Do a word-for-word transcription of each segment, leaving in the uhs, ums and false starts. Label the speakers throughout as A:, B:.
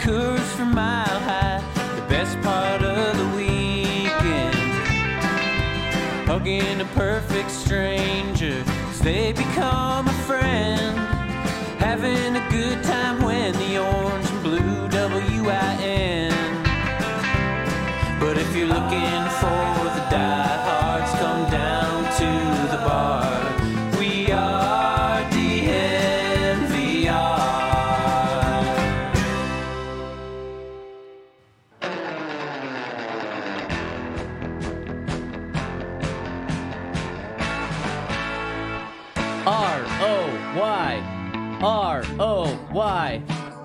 A: Coors from Mile High, the best part of the weekend. Hugging a perfect stranger as they become a friend. Having a good time when the orange and blue W I N. But if you're looking for the diehards, come down to the bar. We are D N V R.
B: R O Y. R O Y.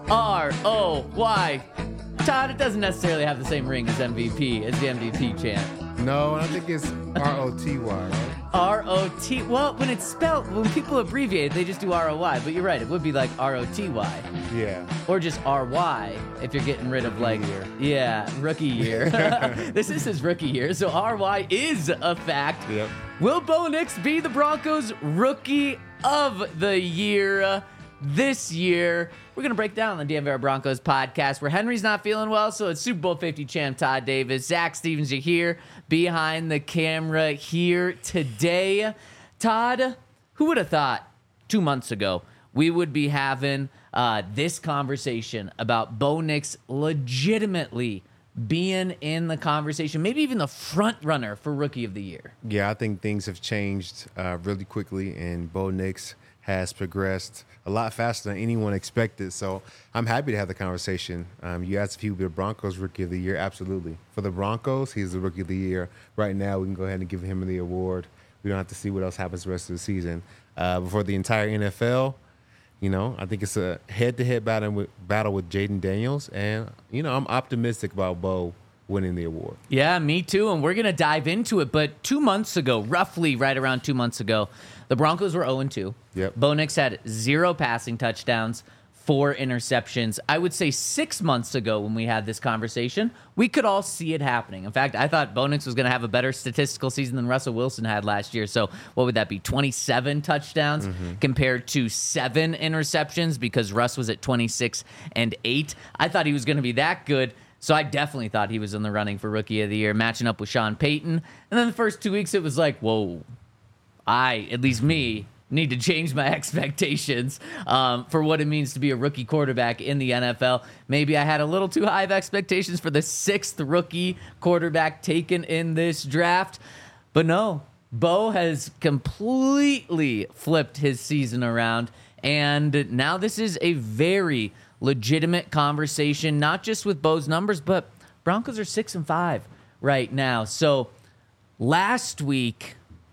B: R O Y. Todd, it doesn't necessarily have the same ring as M V P, as the M V P chant.
C: No, I think it's R O T Y, right?
B: R O T. Well, when it's spelled, when people abbreviate, they just do R O Y. But you're right, it would be like R O T Y.
C: Yeah.
B: Or just R Y if you're getting rid of like,
C: year.
B: yeah, rookie year. This is his rookie year, so R Y is a fact.
C: Yep.
B: Will Bo Nix be the Broncos Rookie of the Year this year? We're going to break down the D N V R Broncos podcast where Henry's not feeling well, so it's Super Bowl fifty champ Todd Davis. Zach Stevens, you're here behind the camera here today. Todd, who would have thought two months ago we would be having uh, this conversation about Bo Nix legitimately being in the conversation, maybe even the front runner for Rookie of the Year?
C: Yeah, I think things have changed uh, really quickly, and Bo Nix has progressed a lot faster than anyone expected. So I'm happy to have the conversation. Um, you asked if he would be the Broncos Rookie of the Year. Absolutely. For the Broncos, he's the Rookie of the Year. Right now, we can go ahead and give him the award. We don't have to see what else happens the rest of the season. Uh, but for the entire N F L, you know, I think it's a head-to-head battle with, battle with Jaden Daniels. And, you know, I'm optimistic about Bo winning the award.
B: Yeah, me too. And we're going to dive into it. But two months ago, roughly right around two months ago, the Broncos were oh and two.
C: Yep.
B: Bo Nix had zero passing touchdowns, four interceptions. I would say six months ago when we had this conversation, we could all see it happening. In fact, I thought Bo Nix was going to have a better statistical season than Russell Wilson had last year. So what would that be, twenty-seven touchdowns mm-hmm. compared to seven interceptions because Russ was at twenty-six and eight. I thought he was going to be that good. So I definitely thought he was in the running for Rookie of the Year, matching up with Sean Payton. And then the first two weeks, it was like, whoa, I, at least me, need to change my expectations um, for what it means to be a rookie quarterback in the N F L. Maybe I had a little too high of expectations for the sixth rookie quarterback taken in this draft. But no, Bo has completely flipped his season around. And now this is a very legitimate conversation, not just with Bo's numbers, but Broncos are six and five right now. So last week,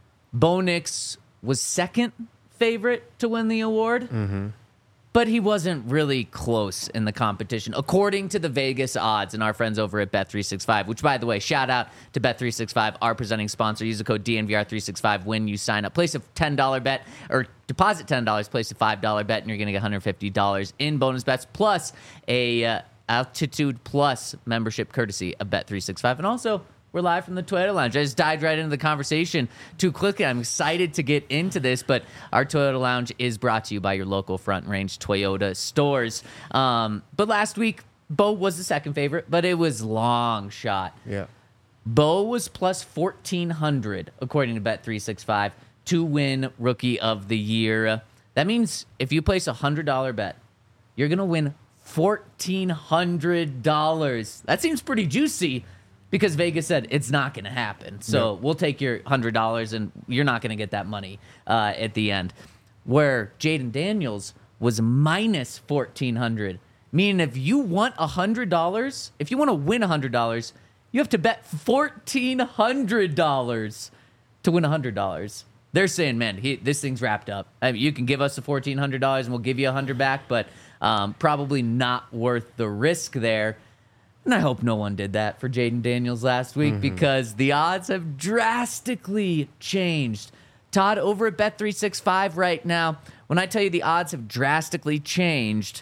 B: Bo Nix was second favorite to win the award, mm-hmm. but he wasn't really close in the competition, according to the Vegas odds and our friends over at Bet three sixty-five, which, by the way, shout out to Bet three sixty-five, our presenting sponsor. Use the code D N V R three sixty-five when you sign up. Place a ten dollars bet, or deposit ten dollars, place a five dollars bet, and you're going to get one hundred fifty dollars in bonus bets, plus a uh, Altitude Plus membership courtesy of Bet three sixty-five. And also, we're live from the Toyota Lounge. I just dived right into the conversation too quickly. I'm excited to get into this, but our Toyota Lounge is brought to you by your local Front Range Toyota stores. Um, but last week, Bo was the second favorite, but it was long shot.
C: Yeah.
B: Bo was plus fourteen hundred, according to Bet three sixty-five, to win Rookie of the Year. That means if you place a one hundred dollars bet, you're going to win fourteen hundred dollars. That seems pretty juicy, because Vegas said it's not going to happen. So yep. we'll take your one hundred dollars, and you're not going to get that money uh, at the end. Where Jaden Daniels was minus fourteen hundred dollars, meaning if you want one hundred dollars, if you want to win one hundred dollars, you have to bet fourteen hundred dollars to win one hundred dollars. They're saying, man, he, this thing's wrapped up. I mean, you can give us the fourteen hundred dollars, and we'll give you one hundred dollars back, but um, probably not worth the risk there. And I hope no one did that for Jaden Daniels last week, mm-hmm. because the odds have drastically changed. Todd, over at Bet three sixty-five right now, when I tell you the odds have drastically changed,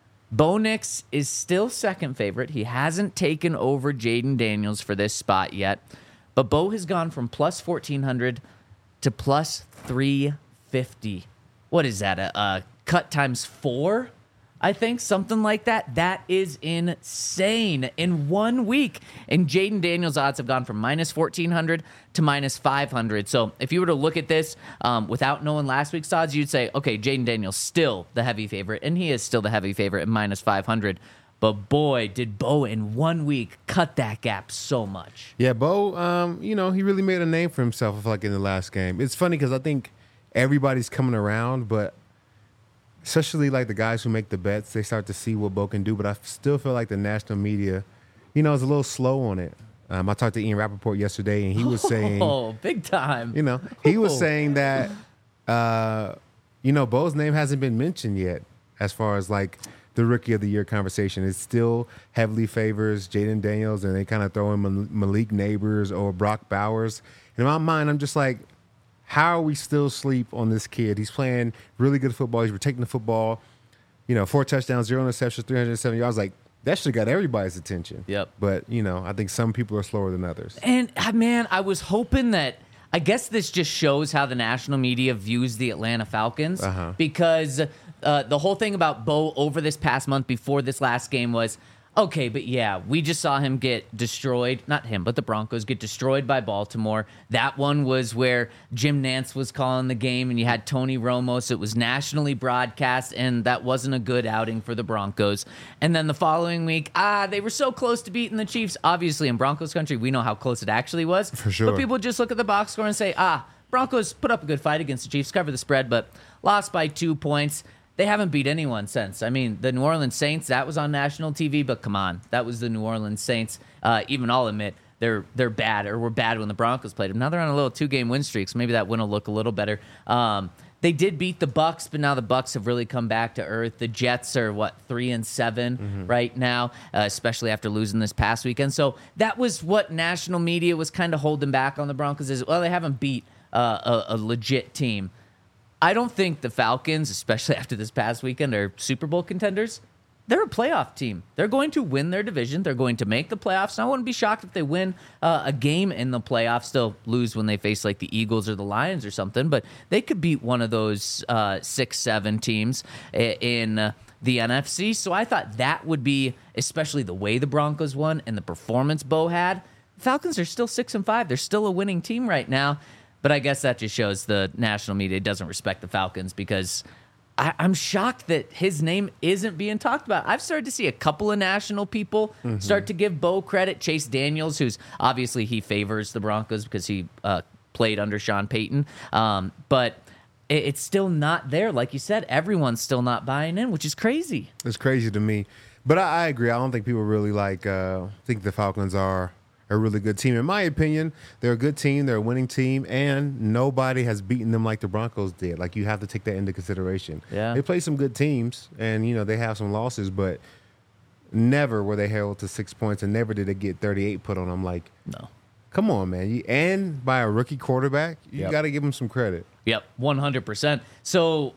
B: Bo Nix is still second favorite. He hasn't taken over Jaden Daniels for this spot yet. But Bo has gone from plus fourteen hundred to plus three fifty. What is that, a, a cut times four I think something like that. That is insane. In one week. And Jaden Daniels' odds have gone from minus fourteen hundred to minus five hundred. So if you were to look at this um, without knowing last week's odds, you'd say, okay, Jaden Daniels still the heavy favorite. And he is still the heavy favorite at minus five hundred. But boy, did Bo in one week cut that gap so much.
C: Yeah, Bo, um, you know, he really made a name for himself, I feel like, in the last game. It's funny because I think everybody's coming around, but especially like the guys who make the bets, they start to see what Bo can do. But I still feel like the national media, you know, is a little slow on it. Um, I talked to Ian Rappaport yesterday, and he was saying,
B: oh, big time.
C: You know, he was
B: Oh.
C: saying that, uh, you know, Bo's name hasn't been mentioned yet as far as like the rookie of the year conversation. It still heavily favors Jaden Daniels, and they kind of throw in Mal- Malik Neighbors or Brock Bowers. And in my mind, I'm just like, how are we still asleep on this kid? He's playing really good football. He's protecting the football. You know, four touchdowns, zero interceptions, three hundred seven yards. Like, that should have got everybody's attention.
B: Yep.
C: But, you know, I think some people are slower than others.
B: And, uh, man, I was hoping that, I guess this just shows how the national media views the Atlanta Falcons.
C: Uh-huh.
B: Because uh, the whole thing about Bo over this past month before this last game was, okay, but yeah, we just saw him get destroyed. Not him, but the Broncos get destroyed by Baltimore. That one was where Jim Nantz was calling the game, and you had Tony Romo. So it was nationally broadcast, and that wasn't a good outing for the Broncos. And then the following week, ah, they were so close to beating the Chiefs. Obviously, in Broncos country, we know how close it actually was.
C: For sure.
B: But people just look at the box score and say, ah, Broncos put up a good fight against the Chiefs, cover the spread, but lost by two points. They haven't beat anyone since. I mean, the New Orleans Saints, that was on national T V, but come on. That was the New Orleans Saints. Uh, even I'll admit, they're they're bad, or were bad when the Broncos played them. Now they're on a little two-game win streak, so maybe that win will look a little better. Um, they did beat the Bucks, but now the Bucks have really come back to earth. The Jets are, what, three and seven mm-hmm. right now, uh, especially after losing this past weekend. So that was what national media was kind of holding back on the Broncos is, well, they haven't beat uh, a, a legit team. I don't think the Falcons, especially after this past weekend, are Super Bowl contenders. They're a playoff team. They're going to win their division. They're going to make the playoffs. And I wouldn't be shocked if they win uh, a game in the playoffs. They'll lose when they face like the Eagles or the Lions or something, but they could beat one of those uh, six, seven teams in uh, the N F C. So I thought that would be, especially the way the Broncos won and the performance Bo had. Falcons are still six and five. They're still a winning team right now. But I guess that just shows the national media doesn't respect the Falcons because I, I'm shocked that his name isn't being talked about. I've started to see a couple of national people mm-hmm. start to give Bo credit. Chase Daniels, who's obviously he favors the Broncos because he uh, played under Sean Payton. Um, but it, it's still not there. Like you said, everyone's still not buying in, which is crazy.
C: It's crazy to me. But I, I agree. I don't think people really like uh, think the Falcons are a really good team. In my opinion, they're a good team. They're a winning team, and nobody has beaten them like the Broncos did. Like, you have to take that into consideration.
B: Yeah.
C: They play some good teams, and, you know, they have some losses, but never were they held to six points, and never did they get thirty-eight put on them. Like,
B: no.
C: Come on, man. You, and by a rookie quarterback, you
B: Yep.
C: got to give them some credit.
B: Yep, one hundred percent. So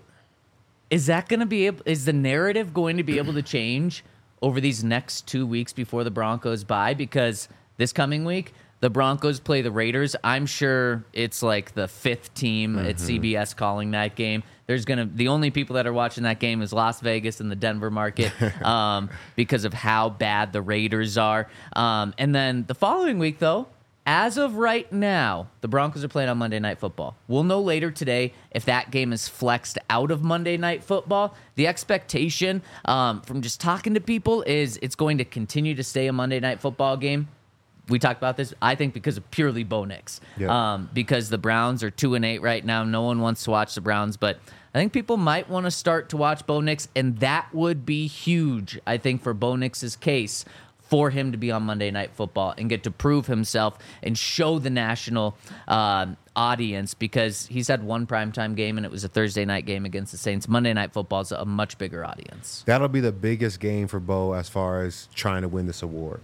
B: is that going to be able, is the narrative going to be able to change over these next two weeks before the Broncos bye? Because this coming week, the Broncos play the Raiders. I'm sure it's like the fifth team mm-hmm. at C B S calling that game. There's gonna the only people that are watching that game is Las Vegas and the Denver market um, because of how bad the Raiders are. Um, and then the following week, though, as of right now, the Broncos are playing on Monday Night Football. We'll know later today if that game is flexed out of Monday Night Football. The expectation um, from just talking to people is it's going to continue to stay a Monday Night Football game. We talked about this, I think, because of purely Bo Nix.
C: Yep.
B: Um, because the Browns are two and eight right now. No one wants to watch the Browns, but I think people might want to start to watch Bo Nix, and that would be huge, I think, for Bo Nix's case for him to be on Monday Night Football and get to prove himself and show the national uh, audience, because he's had one primetime game, and it was a Thursday night game against the Saints. Monday Night Football is a much bigger audience.
C: That'll be the biggest game for Bo as far as trying to win this award.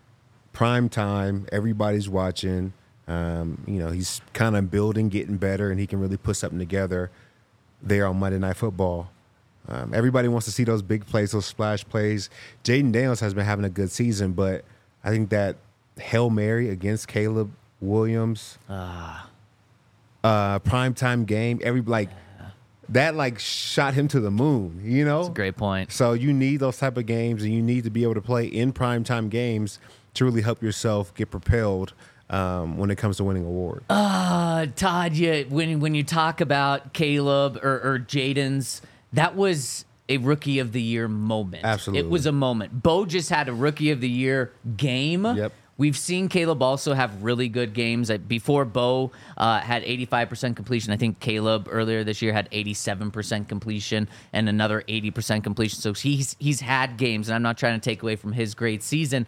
C: Prime time, everybody's watching. Um, you know, he's kind of building, getting better, and he can really put something together there on Monday Night Football. Um, everybody wants to see those big plays, those splash plays. Jaden Daniels has been having a good season, but I think that Hail Mary against Caleb Williams,
B: Ah.
C: uh, primetime game, every like that like shot him to the moon, you know?
B: That's a great point.
C: So you need those type of games, and you need to be able to play in primetime games to really help yourself get propelled um, when it comes to winning awards.
B: Uh, Todd, you, when, when you talk about Caleb or, or Jaden's, that was a Rookie of the Year moment.
C: Absolutely.
B: It was a moment. Bo just had a Rookie of the Year game.
C: Yep.
B: We've seen Caleb also have really good games. Before Bo uh, had eighty-five percent completion, I think Caleb earlier this year had eighty-seven percent completion and another eighty percent completion. So he's he's had games, and I'm not trying to take away from his great season.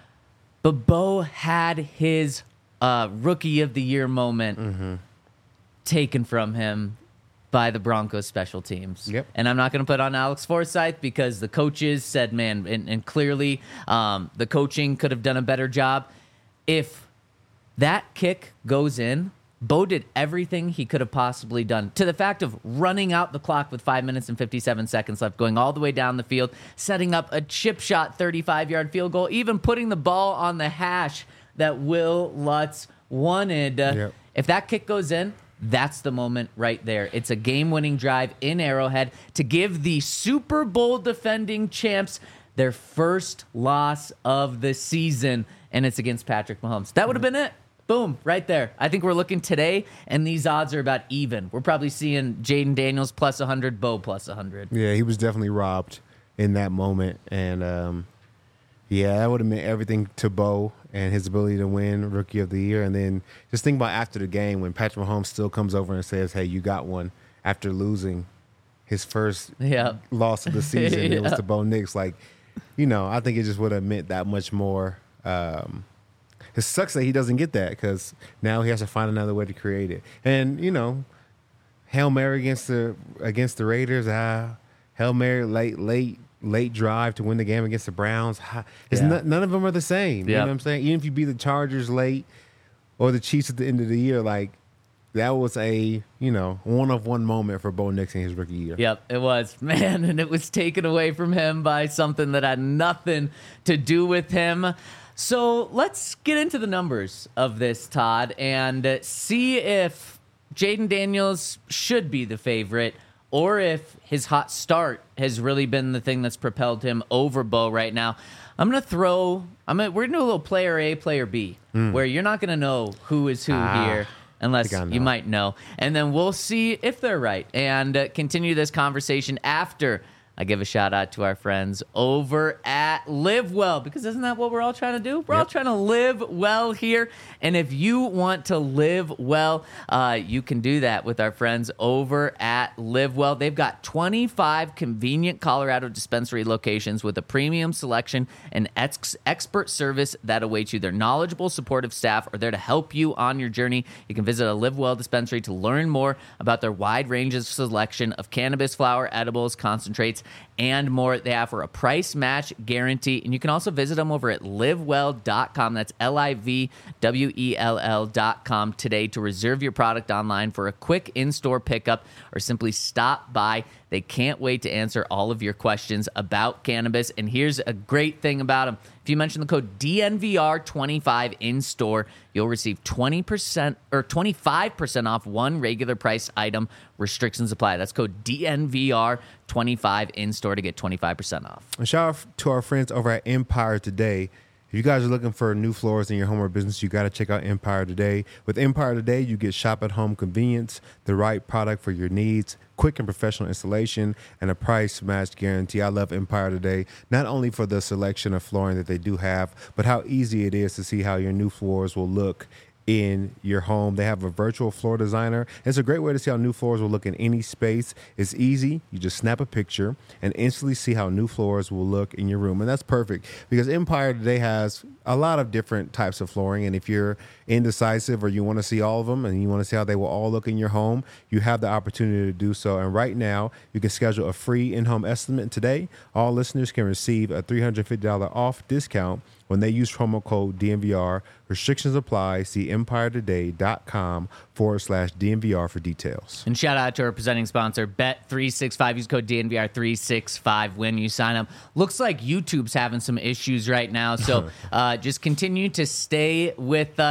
B: But Bo had his uh, Rookie of the Year moment
C: mm-hmm.
B: taken from him by the Broncos special teams.
C: Yep.
B: And I'm not going to put on Alex Forsyth because the coaches said, man, and, and clearly um, the coaching could have done a better job. If that kick goes in, Bo did everything he could have possibly done, to the fact of running out the clock with five minutes and fifty-seven seconds left, going all the way down the field, setting up a chip shot thirty-five-yard field goal, even putting the ball on the hash that Will Lutz wanted. Uh,
C: Yep.
B: If that kick goes in, that's the moment right there. It's a game-winning drive in Arrowhead to give the Super Bowl defending champs their first loss of the season, and it's against Patrick Mahomes. That would have been it. Boom, right there. I think we're looking today, and these odds are about even. We're probably seeing Jaden Daniels plus one hundred, Bo plus one hundred.
C: Yeah, he was definitely robbed in that moment. And, um, yeah, that would have meant everything to Bo and his ability to win Rookie of the Year. And then just think about after the game when Patrick Mahomes still comes over and says, hey, you got one, after losing his first
B: Yeah.
C: loss of the season.
B: Yeah.
C: It was to Bo Nix. Like, you know, I think it just would have meant that much more. Um, it sucks that he doesn't get that because now he has to find another way to create it. And, you know, Hail Mary against the against the Raiders. Ah, Hail Mary late, late, late drive to win the game against the Browns. It's
B: Yeah.
C: n- none of them are the same. You
B: Yep.
C: know what I'm saying? Even if you beat the Chargers late or the Chiefs at the end of the year, like that was a, you know, one of one moment for Bo Nix in his rookie year.
B: Yep, it was. Man, and it was taken away from him by something that had nothing to do with him. So let's get into the numbers of this, Todd, and uh, see if Jaden Daniels should be the favorite or if his hot start has really been the thing that's propelled him over Bo right now. I'm going to throw, I'm gonna, we're going to do a little player A, player B, mm. where you're not going to know who is who
C: ah,
B: here. Unless
C: you
B: might know. And then we'll see if they're right and uh, continue this conversation after I give a shout out to our friends over at Live Well, because isn't that what we're all trying to do? We're
C: Yep.
B: all trying to live well here. And if you want to live well, uh, you can do that with our friends over at Live Well. They've got twenty-five convenient Colorado dispensary locations with a premium selection and ex- expert service that awaits you. Their knowledgeable, supportive staff are there to help you on your journey. You can visit a Live Well dispensary to learn more about their wide range of selection of cannabis flower, edibles, concentrates, and more. They offer a price match guarantee, and you can also visit them over at live well dot com. That's L I V W E L L dot com today to reserve your product online for a quick in-store pickup or simply stop by. They can't wait to answer all of your questions about cannabis. And here's a great thing about them. If you mention the code D N V R twenty-five in store, you'll receive twenty percent or twenty-five percent off one regular price item. Restrictions apply. That's code D N V R twenty-five in store to get twenty-five percent off.
C: And shout out to our friends over at Empire Today. If you guys are looking for new floors in your home or business, you got to check out Empire Today. With Empire Today, you get shop-at-home convenience, the right product for your needs, quick and professional installation, and a price match guarantee. I love Empire Today, not only for the selection of flooring that they do have, but how easy it is to see how your new floors will look in your home. They have a virtual floor designer. It's a great way to see how new floors will look in any space. It's easy. You just snap a picture and instantly see how new floors will look in your room. And that's perfect because Empire Today has a lot of different types of flooring. And if you're indecisive or you want to see all of them and you want to see how they will all look in your home, you have the opportunity to do so. And right now, you can schedule a free in-home estimate today. All listeners can receive a three hundred fifty dollars off discount when they use promo code D N V R. Restrictions apply. See empire today dot com forward slash D N V R for details.
B: And shout out to our presenting sponsor, Bet three sixty-five. Use code D N V R three sixty-five when you sign up. Looks like YouTube's having some issues right now, so uh, just continue to stay with us.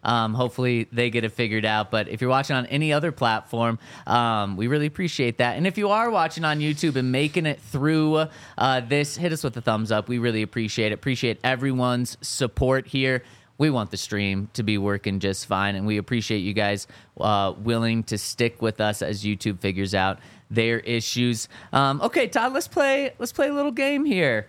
B: Um, hopefully they get it figured out. But if you're watching on any other platform, um, we really appreciate that. And if you are watching on YouTube and making it through uh, this, hit us with a thumbs up. We really appreciate it. Appreciate everyone's support here. We want the stream to be working just fine, and we appreciate you guys uh, willing to stick with us as YouTube figures out their issues. Um, okay, Todd, let's play. Let's play a little game here.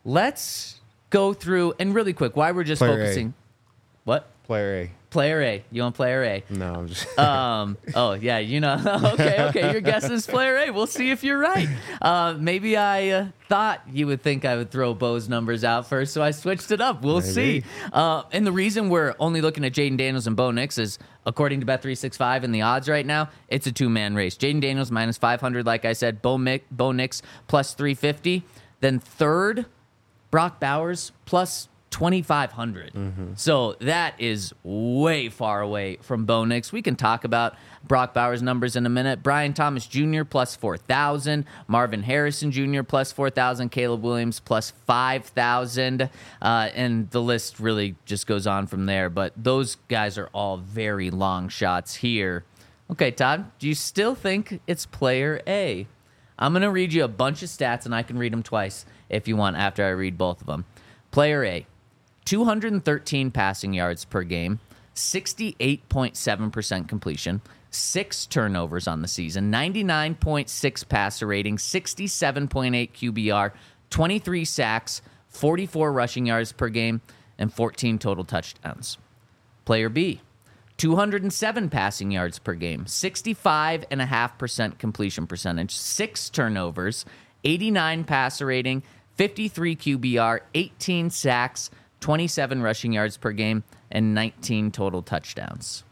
B: Let's go through and really quick. Why we're just
C: Player
B: focusing.
C: A.
B: What?
C: Player A.
B: Player A. You want player A?
C: No, I'm just.
B: um. Oh yeah. You know. okay. Okay. Your guess is player A. We'll see if you're right. Uh, maybe I uh, thought you would think I would throw Bo's numbers out first, so I switched it up. We'll
C: Maybe.
B: see. Uh, and the reason we're only looking at Jaden Daniels and Bo Nix is, according to Bet three sixty-five and the odds right now, it's a two-man race. Jaden Daniels minus five hundred, like I said. Bo, Mick, Bo Nix plus three fifty. Then third, Brock Bowers plus twenty-five hundred. Mm-hmm. So that is way far away from Bo Nix. We can talk about Brock Bowers' numbers in a minute. Brian Thomas Junior plus four thousand. Marvin Harrison Junior plus four thousand. Caleb Williams plus five thousand. Uh, and the list really just goes on from there. But those guys are all very long shots here. Okay, Todd, do you still think it's player A? I'm going to read you a bunch of stats, and I can read them twice if you want after I read both of them. Player A. two hundred thirteen passing yards per game, sixty-eight point seven percent completion, six turnovers on the season, ninety-nine point six passer rating, sixty-seven point eight Q B R, twenty-three sacks, forty-four rushing yards per game, and fourteen total touchdowns. Player B, two hundred seven passing yards per game, sixty-five point five percent completion percentage, six turnovers, eighty-nine passer rating, fifty-three Q B R, eighteen sacks, twenty-seven rushing yards per game, and nineteen total touchdowns.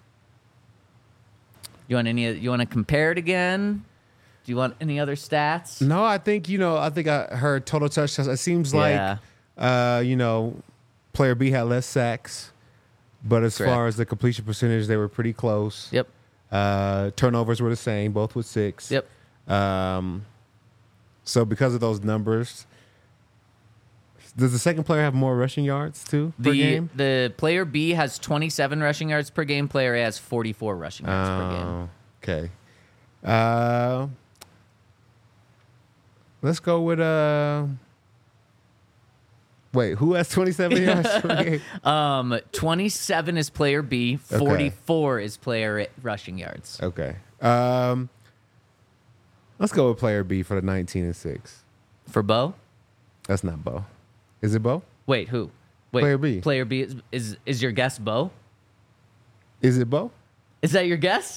B: You want any? You want to compare it again? Do you want any other stats?
C: No, I think, you know, I think I heard total touchdowns. It seems like,
B: Yeah.
C: uh, you know, player B had less sacks, but as
B: Correct.
C: far as the completion percentage, they were pretty close.
B: Yep.
C: Uh, turnovers were the same, both with six.
B: Yep.
C: Um, so because of those numbers, does the second player have more rushing yards too per
B: The
C: game?
B: the player B has twenty-seven rushing yards per game. Player A has forty-four rushing yards per game.
C: Oh, okay. Uh, let's go with uh. Wait, who has twenty-seven yards per game?
B: Um, twenty-seven is player B. forty-four is player A rushing yards.
C: Okay. Um, let's go with player B for the nineteen and six.
B: For Bo?
C: That's not Bo. Is it Bo?
B: Wait, who? Wait,
C: Player B.
B: Player B is is, is your guess Bo?
C: Is it Bo?
B: Is that your guess?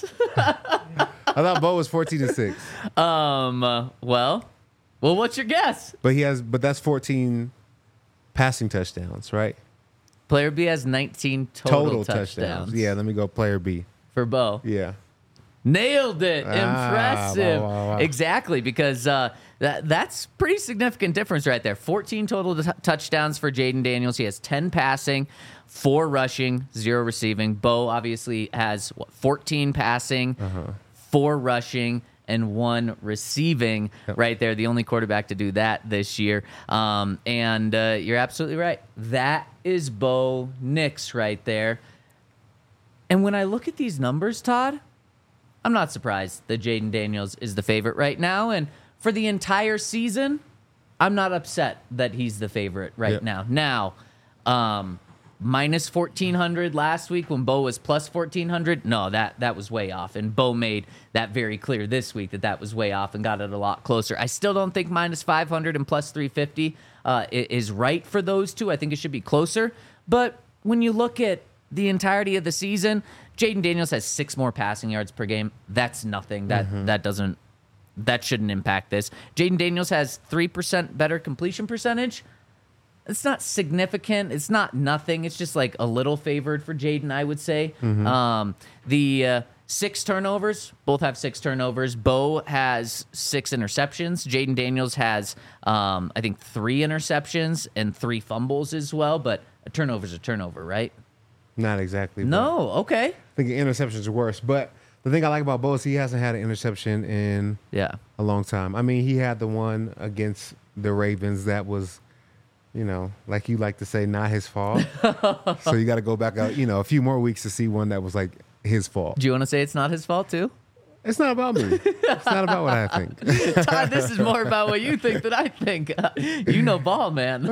C: I thought Bo was fourteen and six.
B: um. uh, well, well, what's your guess?
C: But he has, but that's fourteen passing touchdowns, right?
B: Player B has nineteen total, touchdowns.
C: Yeah, let me go player B.
B: For Bo.
C: Yeah.
B: Nailed it.
C: Ah,
B: Impressive.
C: wow, wow, wow.
B: Exactly, because uh, that that's pretty significant difference right there. fourteen total t- touchdowns for Jaden Daniels. He has ten passing, four rushing, zero receiving. Bo obviously has what, fourteen passing,
C: Uh-huh.
B: four rushing, and one receiving
C: Yep.
B: right there. The only quarterback to do that this year. Um, and uh, you're absolutely right. That is Bo Nix right there. And when I look at these numbers, Todd, I'm not surprised that Jaden Daniels is the favorite right now. And for the entire season, I'm not upset that he's the favorite right
C: Yep.
B: now. Now, um, minus fourteen hundred last week when Bo was plus fourteen hundred. No, that, that was way off. And Bo made that very clear this week that that was way off and got it a lot closer. I still don't think minus five hundred and plus three fifty uh, i- is right for those two. I think it should be closer. But when you look at the entirety of the season, Jaden Daniels has six more passing yards per game. That's nothing. That
C: Mm-hmm.
B: that doesn't that shouldn't impact this. Jaden Daniels has three percent better completion percentage. It's not significant. It's not nothing. It's just like a little favored for Jaden, I would say.
C: Mm-hmm.
B: Um, the uh, six turnovers, both have six turnovers. Bo has six interceptions. Jaden Daniels has, um, I think, three interceptions and three fumbles as well. But a turnover's a turnover, right?
C: Not exactly. but
B: No. Okay.
C: I think interceptions are worse. But the thing I like about Bo is he hasn't had an interception in
B: Yeah.
C: a long time. I mean, he had the one against the Ravens that was, you know, like you like to say, not his fault. So you got to go back out, you know, a few more weeks to see one that was like his fault.
B: Do you want to say it's not his fault too?
C: It's not about me. It's not about what I think.
B: Todd, this is more about what you think than I think. You know ball, man.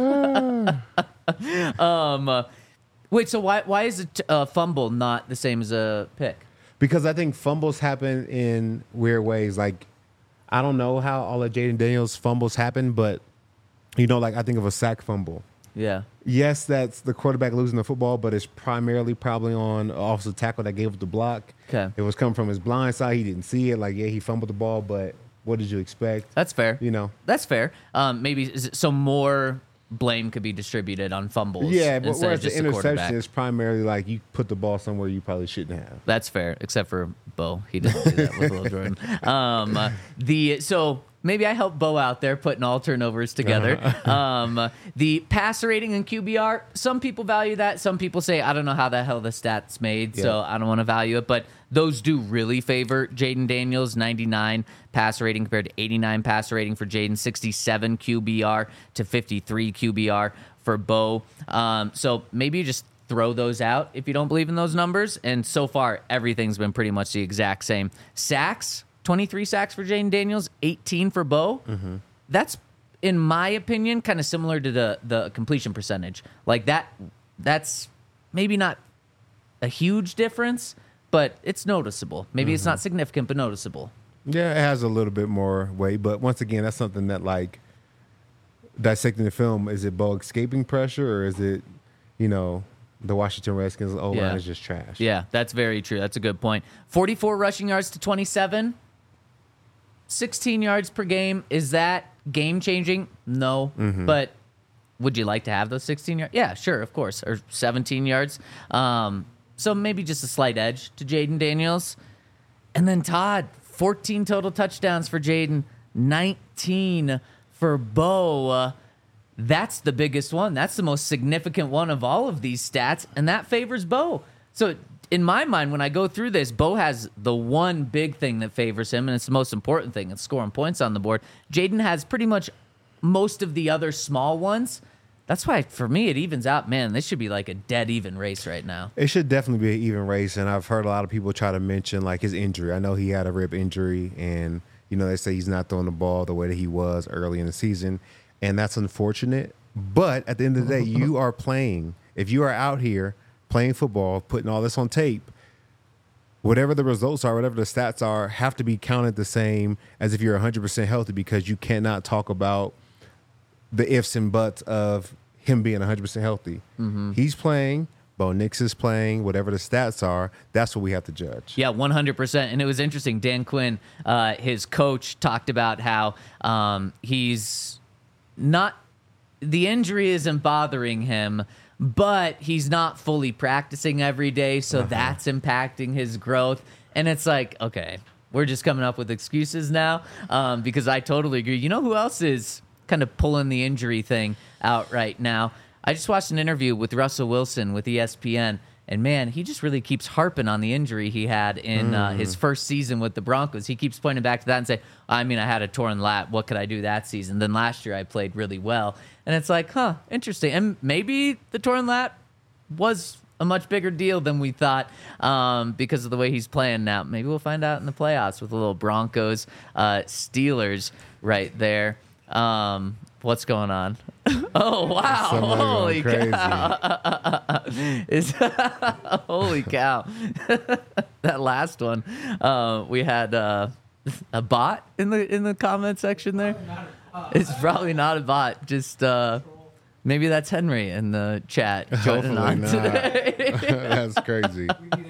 B: um, uh, wait, so why why is a t- uh, fumble not the same as a pick?
C: Because I think fumbles happen in weird ways. Like, I don't know how all of Jaden Daniels' fumbles happen, but, you know, like I think of a sack fumble.
B: Yeah.
C: Yes, that's the quarterback losing the football, but it's primarily probably on an offensive tackle that gave up the block.
B: Okay.
C: It was coming from his blind side. He didn't see it. Like, yeah, he fumbled the ball, but what did you expect?
B: That's fair.
C: You know?
B: That's fair. Um, maybe is it- so more blame could be distributed on fumbles.
C: Yeah, but
B: instead of
C: whereas the
B: just the quarterback.
C: interception is primarily like you put the ball somewhere you probably shouldn't have.
B: That's fair, except for Bo. He didn't do that with Will Jordan. Um, uh, the so maybe I helped Bo out there putting all turnovers together. Um, the passer rating and Q B R. Some people value that. Some people say I don't know how the hell the stats made, so
C: Yeah.
B: I don't want to value it. But those do really favor Jaden Daniels. ninety-nine passer rating compared to eighty-nine passer rating for Jaden. sixty-seven Q B R to fifty-three Q B R for Bo. Um, so maybe you just throw those out if you don't believe in those numbers. And so far, everything's been pretty much the exact same. Sacks, twenty-three sacks for Jaden Daniels, eighteen for Bo. Mm-hmm. That's, in my opinion, kind of similar to the the completion percentage. Like that, that's maybe not a huge difference, but it's noticeable. Maybe mm-hmm. it's not significant, but noticeable.
C: Yeah, it has a little bit more weight, but once again, that's something that, like, dissecting the film, is it Bo escaping pressure, or is it, you know, the Washington Redskins O-line
B: Yeah.
C: is just trash?
B: Yeah, that's very true. That's a good point. forty-four rushing yards to twenty-seven. sixteen yards per game. Is that game-changing? No.
C: Mm-hmm.
B: But would you like to have those sixteen yards? Yeah, sure, of course. Or seventeen yards. Um, so maybe just a slight edge to Jaden Daniels. And then Todd, fourteen total touchdowns for Jaden, nineteen for Bo. Uh, that's the biggest one. That's the most significant one of all of these stats, and that favors Bo. So in my mind, when I go through this, Bo has the one big thing that favors him, and it's the most important thing. It's scoring points on the board. Jaden has pretty much most of the other small ones. That's why, for me, it evens out. Man, this should be like a dead even race right now.
C: It should definitely be an even race, and I've heard a lot of people try to mention, like, his injury. I know he had a rib injury, and, you know, they say he's not throwing the ball the way that he was early in the season, and that's unfortunate. But at the end of the day, you are playing. If you are out here playing football, putting all this on tape, whatever the results are, whatever the stats are, have to be counted the same as if you're one hundred percent healthy, because you cannot talk about the ifs and buts of him being one hundred percent healthy. Mm-hmm. He's playing. Bo Nix is playing. Whatever the stats are, that's what we have to judge.
B: Yeah, one hundred percent. And it was interesting. Dan Quinn, uh, his coach, talked about how um, he's not – the injury isn't bothering him, but he's not fully practicing every day, so uh-huh. that's impacting his growth. And it's like, okay, we're just coming up with excuses now um, because I totally agree. You know who else is – kind of pulling the injury thing out right now? I just watched an interview with Russell Wilson with E S P N, and man, he just really keeps harping on the injury he had in mm. uh, his first season with the Broncos. He keeps pointing back to that and say, I mean, I had a torn lat. What could I do that season? Then last year I played really well. And it's like, huh, interesting. And maybe the torn lat was a much bigger deal than we thought um, because of the way he's playing now. Maybe we'll find out in the playoffs with a little Broncos uh, Steelers right there. Um, what's going on? Oh wow!
C: Somebody
B: Holy
C: going
B: cow! Is holy cow! That last one, uh, we had uh, a bot in the in the comment section there. It's probably not a bot. Just uh, maybe that's Henry in the chat joining on
C: not.
B: today.
C: That's crazy.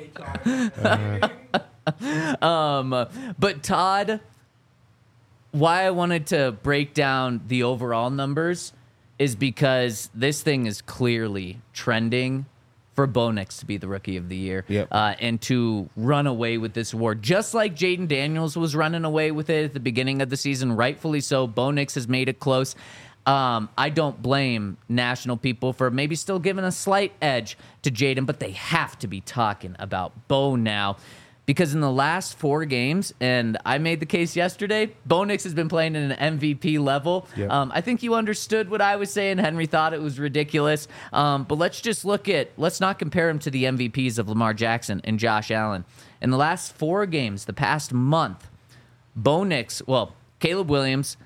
B: uh, um, but Todd. Why I wanted to break down the overall numbers is because this thing is clearly trending for Bo Nix to be the Rookie of the Year
C: yep.
B: uh, and to run away with this award. Just like Jaden Daniels was running away with it at the beginning of the season, rightfully so. Bo Nix has made it close. Um, I don't blame national people for maybe still giving a slight edge to Jaden, but they have to be talking about Bo now. Because in the last four games, and I made the case yesterday, Bo Nix has been playing at an M V P level.
C: Yep.
B: Um, I think you understood what I was saying. Henry thought it was ridiculous. Um, but let's just look at, let's not compare him to the M V Ps of Lamar Jackson and Josh Allen. In the last four games, the past month, Bo Nix, well, Caleb Williams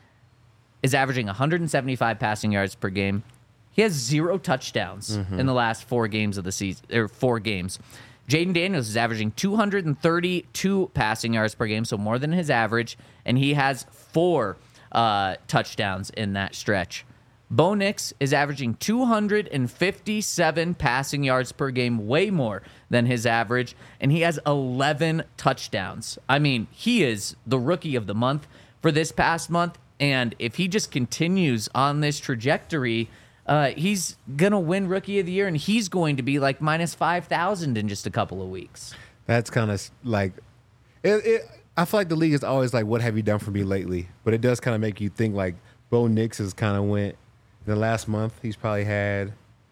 B: is averaging one hundred seventy-five passing yards per game. He has zero touchdowns mm-hmm. in the last four games of the season, or four games. Jaden Daniels is averaging two hundred thirty-two passing yards per game, so more than his average, and he has four uh, touchdowns in that stretch. Bo Nix is averaging two hundred fifty-seven passing yards per game, way more than his average, and he has eleven touchdowns. I mean, he is the rookie of the month for this past month, and if he just continues on this trajectory, Uh, he's going to win Rookie of the Year, and he's going to be like minus five thousand in just a couple of weeks.
C: That's kind of like it, it. I feel like the league is always like, what have you done for me lately? But it does kind of make you think like Bo Nix has kind of went in the last month. He's probably had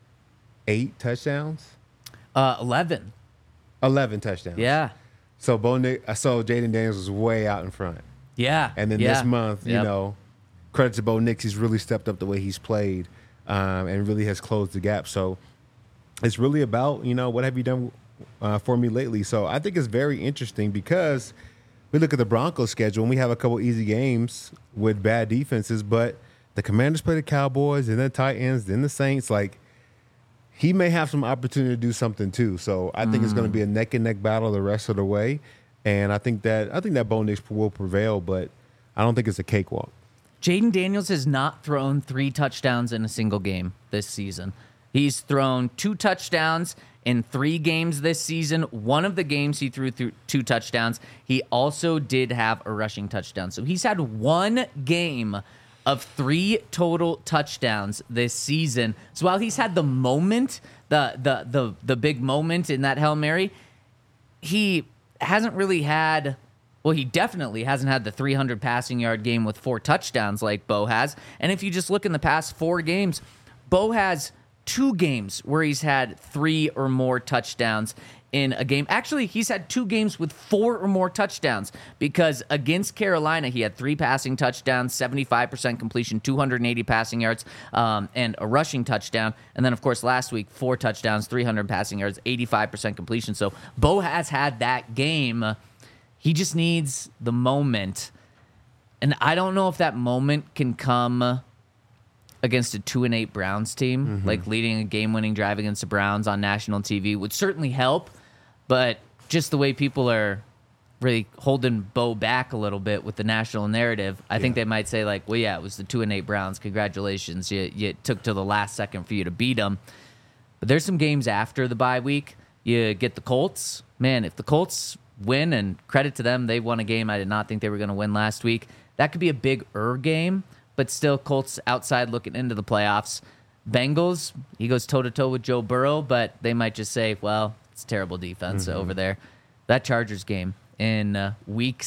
C: eight touchdowns.
B: Uh, eleven.
C: eleven touchdowns.
B: Yeah.
C: So Bo Nix, so Jaden Daniels was way out in front.
B: Yeah.
C: And then
B: yeah.
C: this month, you
B: Yep.
C: know, credit to Bo Nix, he's really stepped up the way he's played. Um, and really has closed the gap. So it's really about, you know, what have you done uh, for me lately? So I think it's very interesting because we look at the Broncos schedule and we have a couple easy games with bad defenses, but the Commanders play the Cowboys and the Titans, then the Saints. Like, he may have some opportunity to do something too. So I think mm. it's going to be a neck and neck battle the rest of the way. And I think that I think that Bo Nix will prevail, but I don't think it's a cakewalk.
B: Jaden Daniels has not thrown three touchdowns in a single game this season. He's thrown two touchdowns in three games this season. One of the games he threw through two touchdowns. He also did have a rushing touchdown. So he's had one game of three total touchdowns this season. So while he's had the moment, the the the the big moment in that Hail Mary, he hasn't really had... Well, he definitely hasn't had the three hundred passing yard game with four touchdowns like Bo has. And if you just look in the past four games, Bo has two games where he's had three or more touchdowns in a game. Actually, he's had two games with four or more touchdowns because against Carolina, he had three passing touchdowns, seventy-five percent completion, two hundred eighty passing yards, um, and a rushing touchdown. And then, of course, last week, four touchdowns, three hundred passing yards, eighty-five percent completion. So Bo has had that game. He just needs the moment. And I don't know if that moment can come against a two and eight Browns team. Mm-hmm. Like leading a game-winning drive against the Browns on national T V would certainly help. But just the way people are really holding Bo back a little bit with the national narrative, I yeah. think they might say, like, well, yeah, it was the two and eight Browns. Congratulations. You, you took to the last second for you to beat them. But there's some games after the bye week. You get the Colts. Man, if the Colts win, and credit to them, they won a game I did not think they were going to win last week. That could be a big-er game, but still Colts outside looking into the playoffs. Bengals, he goes toe-to-toe with Joe Burrow, but they might just say, well, it's terrible defense mm-hmm. over there. That Chargers game in uh, week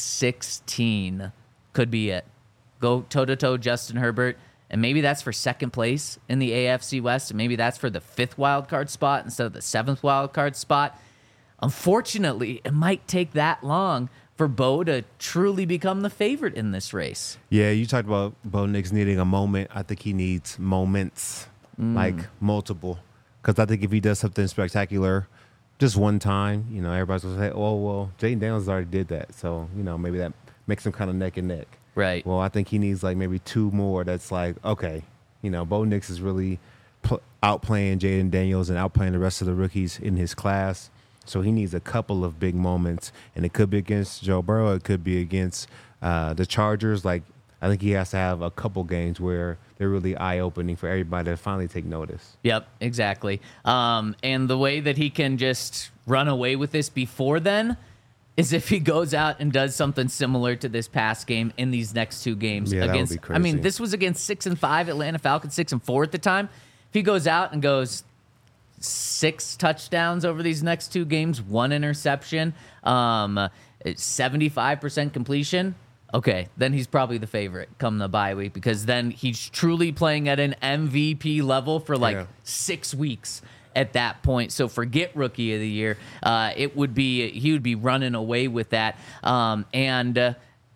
B: sixteen could be it. Go toe-to-toe Justin Herbert, and maybe that's for second place in the A F C West, and maybe that's for the fifth wild card spot instead of the seventh wild card spot. Unfortunately, it might take that long for Bo to truly become the favorite in this race.
C: Yeah, you talked about Bo Nix needing a moment. I think he needs moments, mm. like multiple. Because I think if he does something spectacular just one time, you know, everybody's going to say, oh, well, Jaden Daniels already did that. So, you know, maybe that makes him kind of neck and neck.
B: Right.
C: Well, I think he needs like maybe two more that's like, okay, you know, Bo Nix is really pl- outplaying Jaden Daniels and outplaying the rest of the rookies in his class. So he needs a couple of big moments, and it could be against Joe Burrow. It could be against uh, the Chargers. Like, I think he has to have a couple games where they're really eye-opening for everybody to finally take notice.
B: Yep, exactly. Um, and the way that he can just run away with this before then is if he goes out and does something similar to this past game in these next two games.
C: Yeah,
B: against,
C: that would be crazy.
B: I mean, this was against six and five Atlanta Falcons, six and four at the time. If he goes out and goes six touchdowns over these next two games, one interception, um, seventy-five percent completion, okay, then he's probably the favorite come the bye week, because then he's truly playing at an M V P level for like yeah. six weeks. at that point. So forget rookie of the year. Uh, it would be he would be running away with that. Um, and uh,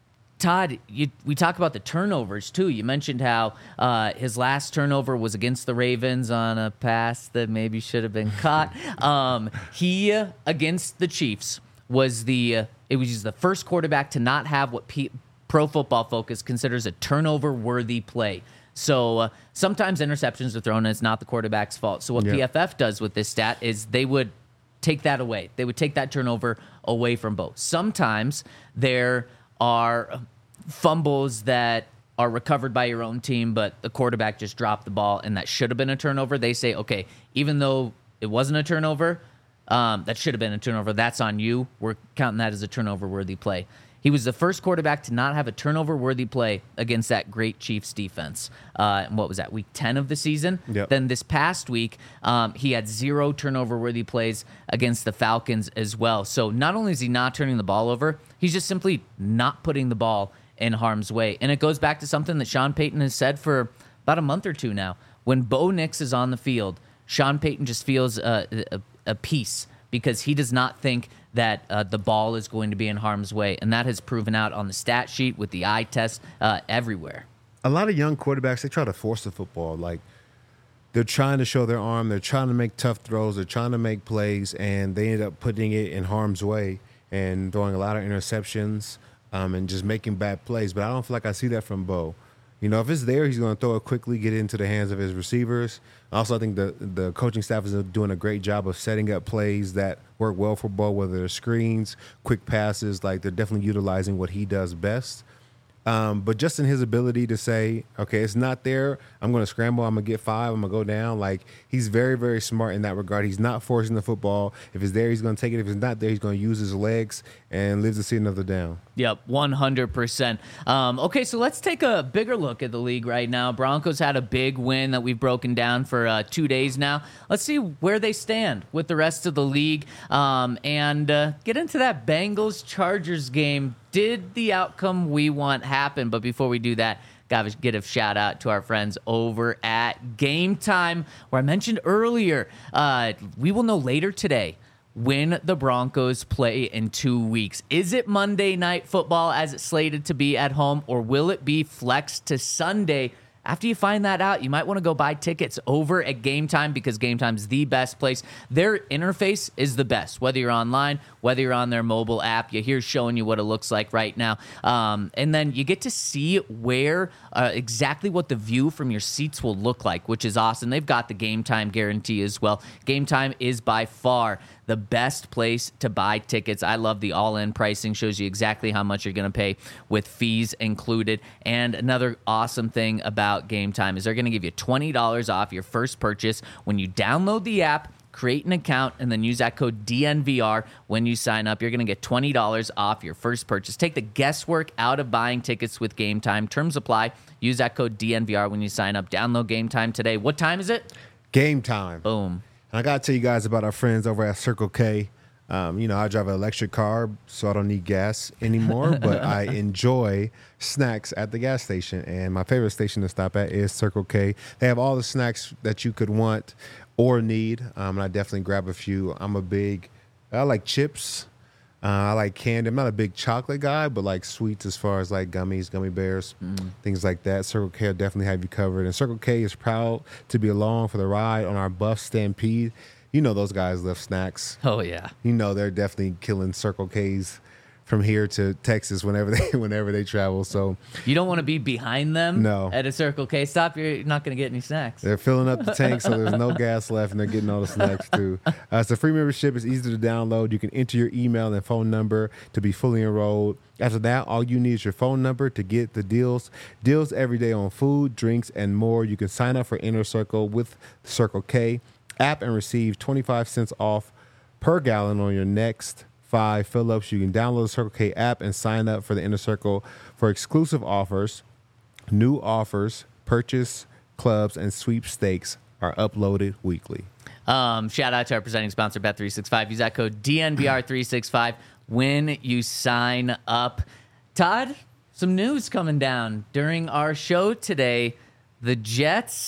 B: Todd, you, we talk about the turnovers too. You mentioned how uh, his last turnover was against the Ravens on a pass that maybe should have been caught. Um, he uh, against the Chiefs was the uh, it was the first quarterback to not have what P- Pro Football Focus considers a turnover-worthy play. So uh, sometimes interceptions are thrown, and it's not the quarterback's fault. So what
C: Yeah.
B: P F F does with this stat is they would take that away. They would take that turnover away from Bo. Sometimes there are fumbles that are recovered by your own team, but the quarterback just dropped the ball, and that should have been a turnover. They say, okay, even though it wasn't a turnover, um, that should have been a turnover. That's on you. We're counting that as a turnover-worthy play. He was the first quarterback to not have a turnover-worthy play against that great Chiefs defense. Uh, and what was that, week ten of the season?
C: Yep.
B: Then this past week, um, he had zero turnover-worthy plays against the Falcons as well. So not only is he not turning the ball over, he's just simply not putting the ball in harm's way. And it goes back to something that Sean Payton has said for about a month or two now. When Bo Nix is on the field, Sean Payton just feels uh, a, a peace because he does not think that uh, the ball is going to be in harm's way. And that has proven out on the stat sheet, with the eye test, uh, everywhere.
C: A lot of young quarterbacks, they try to force the football. Like, they're trying to show their arm. They're trying to make tough throws. They're trying to make plays, and they end up putting it in harm's way and throwing a lot of interceptions um, and just making bad plays. But I don't feel like I see that from Bo. You know, if it's there, he's going to throw it quickly, get it into the hands of his receivers. Also, I think the the coaching staff is doing a great job of setting up plays that work well for Bo, whether they're screens, quick passes. Like, they're definitely utilizing what he does best. Um, but just in his ability to say, okay, it's not there, I'm going to scramble, I'm going to get five, I'm going to go down. Like, he's very, very smart in that regard. He's not forcing the football. If it's there, he's going to take it. If it's not there, he's going to use his legs and live to see another down.
B: Yep, one hundred percent. Um, okay, so let's take a bigger look at the league right now. Broncos had a big win that we've broken down for uh, two days now. Let's see where they stand with the rest of the league um, and uh, get into that Bengals-Chargers game. Did the outcome we want happen? But before we do that, got to get a shout out to our friends over at Game Time, where I mentioned earlier, uh, we will know later today when the Broncos play in two weeks. Is it Monday Night Football as it's slated to be at home, or will it be flexed to Sunday? After you find that out, you might want to go buy tickets over at Game Time, because Game Time's the best place. Their interface is the best, whether you're online, whether you're on their mobile app. You're here showing you what it looks like right now. Um, and then you get to see where uh, exactly what the view from your seats will look like, which is awesome. They've got the Game Time guarantee as well. Game Time is by far the best place to buy tickets. I love the all-in pricing. Shows you exactly how much you're going to pay with fees included. And another awesome thing about Game Time is they're going to give you twenty dollars off your first purchase when you download the app, create an account, and then use that code D N V R when you sign up. You're going to get twenty dollars off your first purchase. Take the guesswork out of buying tickets with Game Time. Terms apply. Use that code D N V R when you sign up. Download Game Time today. What time is it?
C: Game Time.
B: Boom.
C: And I got to tell you guys about our friends over at Circle K. Um, you know, I drive an electric car, so I don't need gas anymore, but I enjoy snacks at the gas station. And my favorite station to stop at is Circle K. They have all the snacks that you could want or need, um, and I definitely grab a few. I'm a big, I like chips. Uh, I like candy. I'm not a big chocolate guy, but like sweets as far as like gummies, gummy bears, mm. things like that. Circle K will definitely have you covered. And Circle K is proud to be along for the ride on our Buff Stampede. You know those guys lift snacks.
B: Oh, yeah.
C: You know they're definitely killing Circle K's from here to Texas whenever they whenever they travel. So
B: you don't want to be behind them
C: no.
B: at a Circle K stop. You're not going to get any snacks.
C: They're filling up the tank, so there's no gas left, and they're getting all the snacks too. Uh, it's a free membership. It's easy to download. You can enter your email and phone number to be fully enrolled. After that, all you need is your phone number to get the deals. Deals every day on food, drinks, and more. You can sign up for Inner Circle with Circle K app and receive twenty-five cents off per gallon on your next five fill-ups. You can download the Circle K app and sign up for the Inner Circle for exclusive offers. New offers, purchase clubs, and sweepstakes are uploaded weekly.
B: Um, shout out to our presenting sponsor, Bet three sixty-five. Use that code D N V R three sixty-five when you sign up. Todd, some news coming down during our show today. The Jets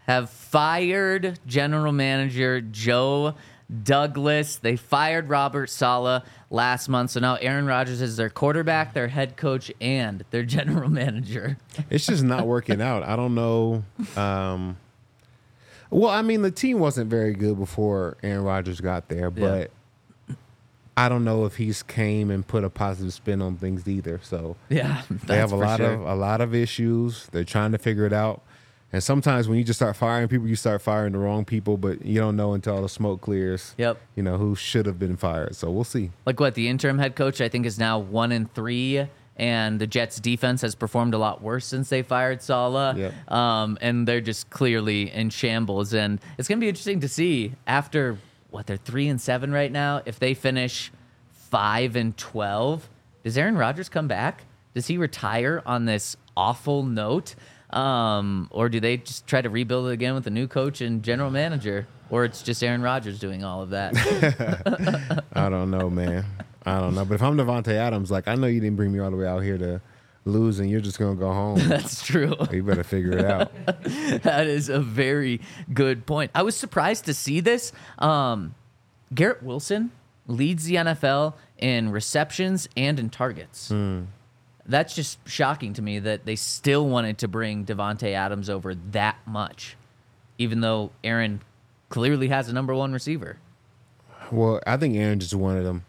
B: have fired general manager Joe Douglas. They fired Robert Saleh last month. So now Aaron Rodgers is their quarterback, their head coach, and their general manager.
C: It's just not working out. I don't know. Um, well, I mean, the team wasn't very good before Aaron Rodgers got there, but yeah. I don't know if he's came and put a positive spin on things either. So
B: yeah,
C: they have a lot
B: sure.
C: of a lot of issues. They're trying to figure it out. And sometimes when you just start firing people, you start firing the wrong people, but you don't know until all the smoke clears.
B: Yep.
C: You know, who should have been fired. So we'll see.
B: Like what, the interim head coach, I think, is now one and three, and the Jets defense has performed a lot worse since they fired Saleh.
C: Yep.
B: Um, and they're just clearly in shambles. And it's going to be interesting to see after, what, they're three and seven right now, if they finish five and twelve, does Aaron Rodgers come back? Does he retire on this awful note? Um, or do they just try to rebuild it again with a new coach and general manager? Or it's just Aaron Rodgers doing all of that?
C: I don't know, man. I don't know. But if I'm Devontae Adams, like, I know you didn't bring me all the way out here to lose and you're just going to go home.
B: That's true.
C: You better figure it out.
B: That is a very good point. I was surprised to see this. Um, Garrett Wilson leads the N F L in receptions and in targets.
C: Hmm.
B: That's just shocking to me that they still wanted to bring Devontae Adams over that much, even though Aaron clearly has a number one receiver.
C: Well, I think Aaron just wanted them.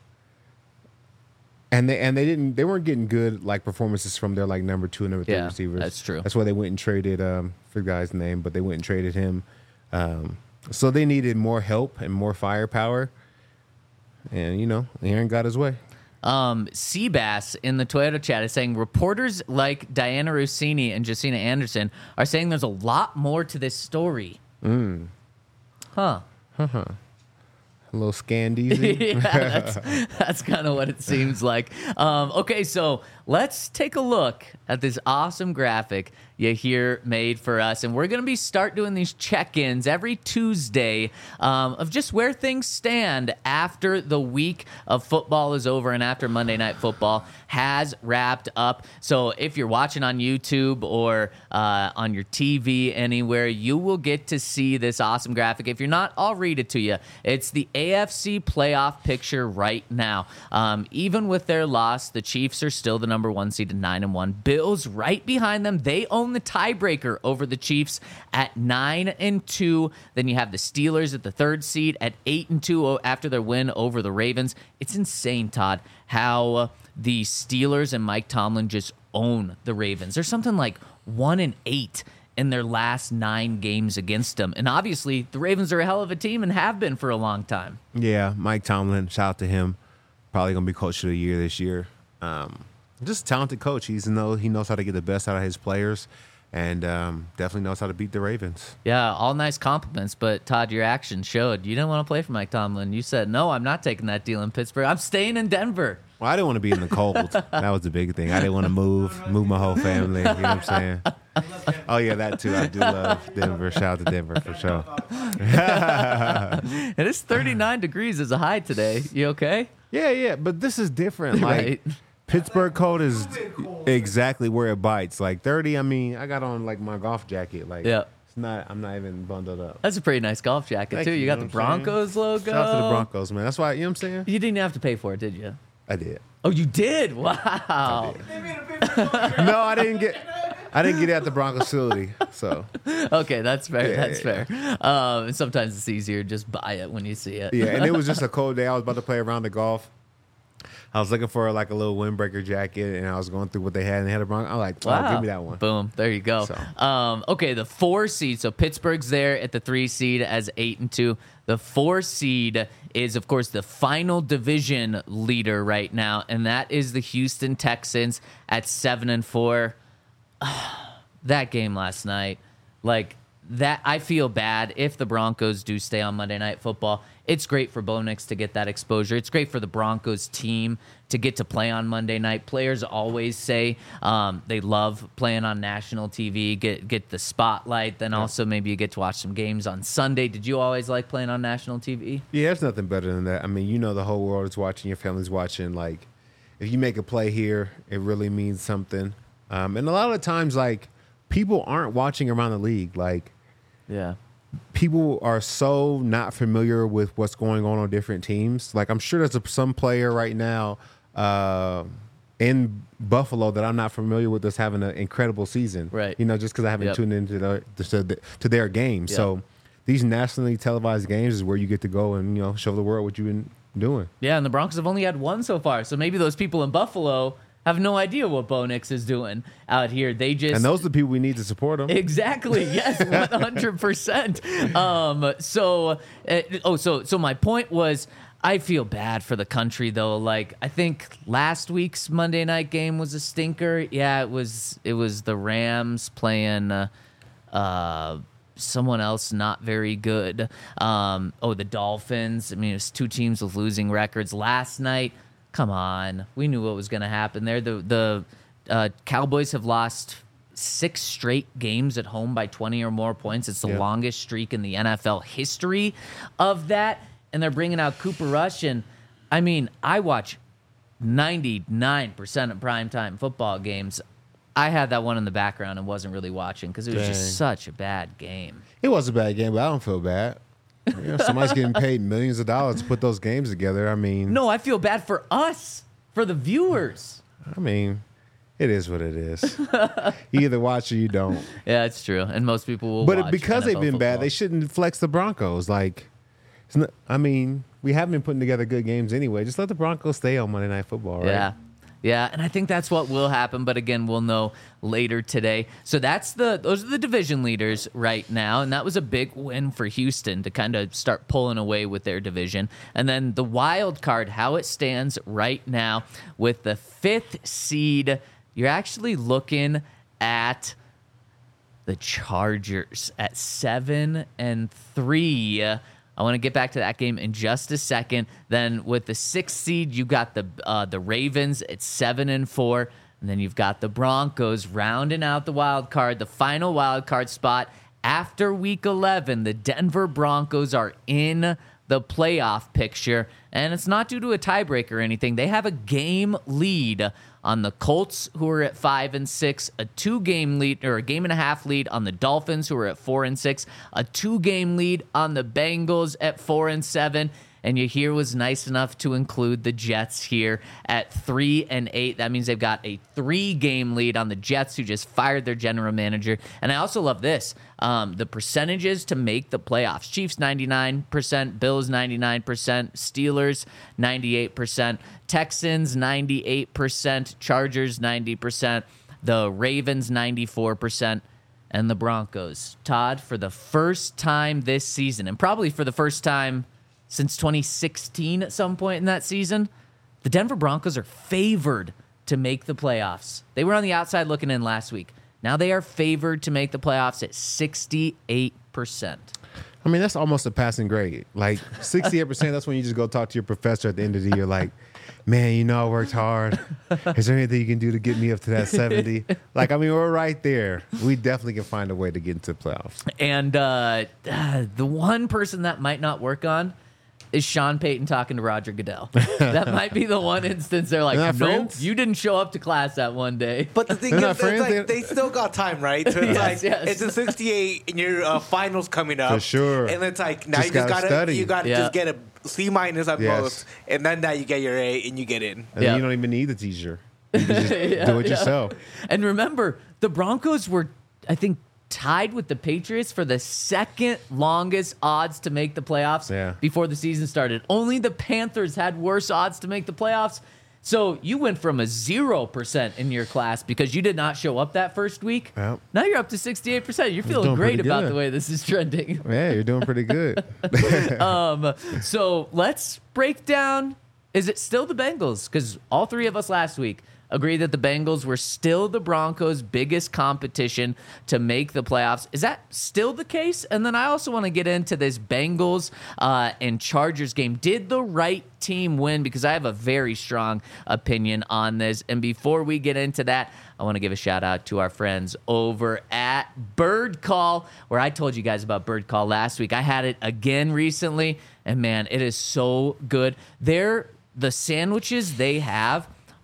C: And they and they didn't they weren't getting good like performances from their like number two and number three
B: Yeah,
C: receivers.
B: that's true.
C: That's why they went and traded um for the guy's name, but they went and traded him. Um, so they needed more help and more firepower. And you know, Aaron got his way.
B: Um, Seabass in the Toyota chat is saying reporters like Diana Rossini and Josina Anderson are saying there's a lot more to this story.
C: Mm.
B: Huh.
C: Uh-huh. A little scandeezy.
B: Yeah, that's, that's kind of what it seems like. Um, okay, so let's take a look at this awesome graphic Yahir made for us. And we're going to be start doing these check-ins every Tuesday um, of just where things stand after the week of football is over and after Monday Night Football has wrapped up. So if you're watching on YouTube or uh, on your T V anywhere, you will get to see this awesome graphic. If you're not, I'll read it to you. It's the A F C playoff picture right now. Um, even with their loss, the Chiefs are still the number one seed at nine and one. Bills right behind them. They own the tiebreaker over the Chiefs at nine and two. Then you have the Steelers at the third seed at eight and two after their win over the Ravens. It's insane, Todd, how the Steelers and Mike Tomlin just own the Ravens. There's something like one and eight in their last nine games against them. And obviously, the Ravens are a hell of a team and have been for a long time.
C: Yeah, Mike Tomlin, shout out to him. Probably going to be coach of the year this year. Um, just a talented coach. He's know he knows how to get the best out of his players, and um, definitely knows how to beat the Ravens.
B: Yeah, all nice compliments, but Todd, your actions showed you didn't want to play for Mike Tomlin. You said, no, I'm not taking that deal in Pittsburgh. I'm staying in Denver.
C: Well, I didn't want to be in the cold. That was the big thing. I didn't want to move, move my whole family. You know what I'm saying? Oh, yeah, that too. I do love Denver. Shout out to Denver for sure.
B: It is thirty-nine degrees as a high today. You okay?
C: Yeah, yeah, but this is different. Like,
B: Right.
C: Pittsburgh cold is exactly where it bites. Like thirty, I mean, I got on like my golf jacket. Like,
B: Yeah.
C: it's not. I'm not even bundled up.
B: That's a pretty nice golf jacket,
C: Thank
B: too. You,
C: you,
B: got
C: know
B: the
C: what I'm saying?
B: Broncos logo.
C: Shout out to the Broncos, man. That's why, you know what I'm saying?
B: You didn't have to pay for it, did you?
C: I did.
B: Oh, you did? Wow.
C: No, I didn't get. I didn't get it at the Broncos facility. So
B: Okay, that's fair.
C: Yeah,
B: that's
C: yeah,
B: fair. Um, and sometimes it's easier to just buy it when you see it.
C: yeah, and it was just a cold day. I was about to play around the golf. I was looking for like a little windbreaker jacket, and I was going through what they had, and they had a Bronco. I'm like, oh,
B: Wow.
C: give me that one.
B: Boom. There you go.
C: So.
B: Um, okay, the four seed. So Pittsburgh's there at the three seed as eight and two. The four seed is, of course, the final division leader right now, and that is the Houston Texans at seven and four. That game last night, like that, I feel bad if the Broncos do stay on Monday Night Football. It's great for Bo Nix to get that exposure. It's great for the Broncos team to get to play on Monday night. Players always say um, they love playing on national T V, get get the spotlight. Then also maybe you get to watch some games on Sunday. Did you always like playing on national T V?
C: Yeah, there's nothing better than that. I mean, you know, the whole world is watching. Your family's watching. Like, if you make a play here, it really means something. Um, and a lot of the times, like, people aren't watching around the league. Like,
B: Yeah.
C: people are so not familiar with what's going on on different teams. Like, I'm sure there's a, some player right now uh, in Buffalo that I'm not familiar with that's having an incredible season.
B: Right.
C: You know, just because I haven't
B: Yep.
C: tuned into their, to, to their game.
B: Yep.
C: So these nationally televised games is where you get to go and, you know, show the world what you've been doing.
B: Yeah, and the Broncos have only had one so far. So maybe those people in Buffalo have no idea what Bo Nix is doing out here. They just
C: And those are the people we need to support them.
B: Exactly. Yes, one hundred percent. Um, so, uh, oh, so, so my point was, I feel bad for the country though. Like, I think last week's Monday night game was a stinker. Yeah, it was. It was the Rams playing uh, uh, someone else not very good. Um, oh, the Dolphins. I mean, it's two teams with losing records. Last night, come on, we knew what was going to happen there. The the uh, Cowboys have lost six straight games at home by twenty or more points. It's the
C: Yeah.
B: longest streak in the N F L history of that. And they're bringing out Cooper Rush. And, I mean, I watch ninety-nine percent of primetime football games. I had that one in the background and wasn't really watching because it was
C: Dang.
B: just such a bad game.
C: It was a bad game, but I don't feel bad. You know, somebody's getting paid millions of dollars to put those games together. I mean,
B: No, I feel bad for us, for the viewers.
C: I mean, it is what it is. You either watch or you don't.
B: Yeah, it's true. And most people will
C: But
B: watch
C: it, because
B: N F
C: they've
B: L
C: been bad,
B: football.
C: they shouldn't flex the Broncos. Like, it's not, I mean, we have been putting together good games anyway. Just let the Broncos stay on Monday Night Football, right?
B: Yeah. Yeah, and I think that's what will happen, but again, we'll know later today. So that's the those are the division leaders right now, and that was a big win for Houston to kind of start pulling away with their division. And then the wild card, how it stands right now with the fifth seed, you're actually looking at the Chargers at seven and three. I want to get back to that game in just a second. Then with the sixth seed, you got the uh, the Ravens at seven and four, and then you've got the Broncos rounding out the wild card, the final wild card spot after Week eleven. The Denver Broncos are in the playoff picture, and it's not due to a tiebreak or anything. They have a game lead on the Colts, who are at five and six, a two-game lead or a game and a half lead on the Dolphins, who are at four and six, a two-game lead on the Bengals at four and seven. And Yahir was nice enough to include the Jets here at three and eight. That means they've got a three-game lead on the Jets, who just fired their general manager. And I also love this: um, the percentages to make the playoffs. Chiefs ninety-nine percent, Bills ninety-nine percent, Steelers ninety-eight percent, Texans ninety-eight percent, Chargers ninety percent, the Ravens ninety-four percent. And the Broncos. Todd, for the first time this season, and probably for the first time since twenty sixteen at some point in that season, the Denver Broncos are favored to make the playoffs. They were on the outside looking in last week. Now they are favored to make the playoffs at sixty-eight percent.
C: I mean, that's almost a passing grade. Like, sixty-eight percent, that's when you just go talk to your professor at the end of the year, like, man, you know, I worked hard. Is there anything you can do to get me up to that seventy? Like, I mean, we're right there. We definitely can find a way to get into the playoffs.
B: And uh, uh, the one person that might not work on is Sean Payton talking to Roger Goodell. That might be the one instance they're like,
C: They're not
B: nope,
C: friends?
B: you didn't show up to class that one day.
D: But the thing
C: They're
D: is,
C: not
D: it's
C: friends,
D: like,
C: they-
D: they still got time, right? So it's
B: Yes,
D: like
B: yes.
D: it's a sixty-eight, and your uh, finals coming up
C: For sure.
D: And it's like now
C: Just
D: you just
C: gotta
D: gotta
C: study.
D: you gotta
B: Yeah.
D: just get a C minus at
C: Yes.
D: most, and then now you get your A and you get in.
C: And
B: Yeah.
C: then you don't even need the teacher. You can just
B: Yeah,
C: do it
B: yeah.
C: yourself.
B: And remember, the Broncos were, I think, tied with the Patriots for the second longest odds to make the playoffs
C: Yeah.
B: before the season started. Only the Panthers had worse odds to make the playoffs. So you went from a zero percent in your class because you did not show up that first week.
C: Yep.
B: Now you're up to sixty-eight percent. You're feeling
C: doing
B: great
C: pretty
B: about
C: good.
B: the way this is trending.
C: Yeah, you're doing pretty good.
B: Um, so let's break down. Is it still the Bengals? Because all three of us last week agree that the Bengals were still the Broncos' biggest competition to make the playoffs. Is that still the case? And then I also want to get into this Bengals uh, and Chargers game. Did the right team win? Because I have a very strong opinion on this. And before we get into that, I want to give a shout out to our friends over at Bird Call, where I told you guys about Bird Call last week. I had it again recently, and man, it is so good. They're the sandwiches they have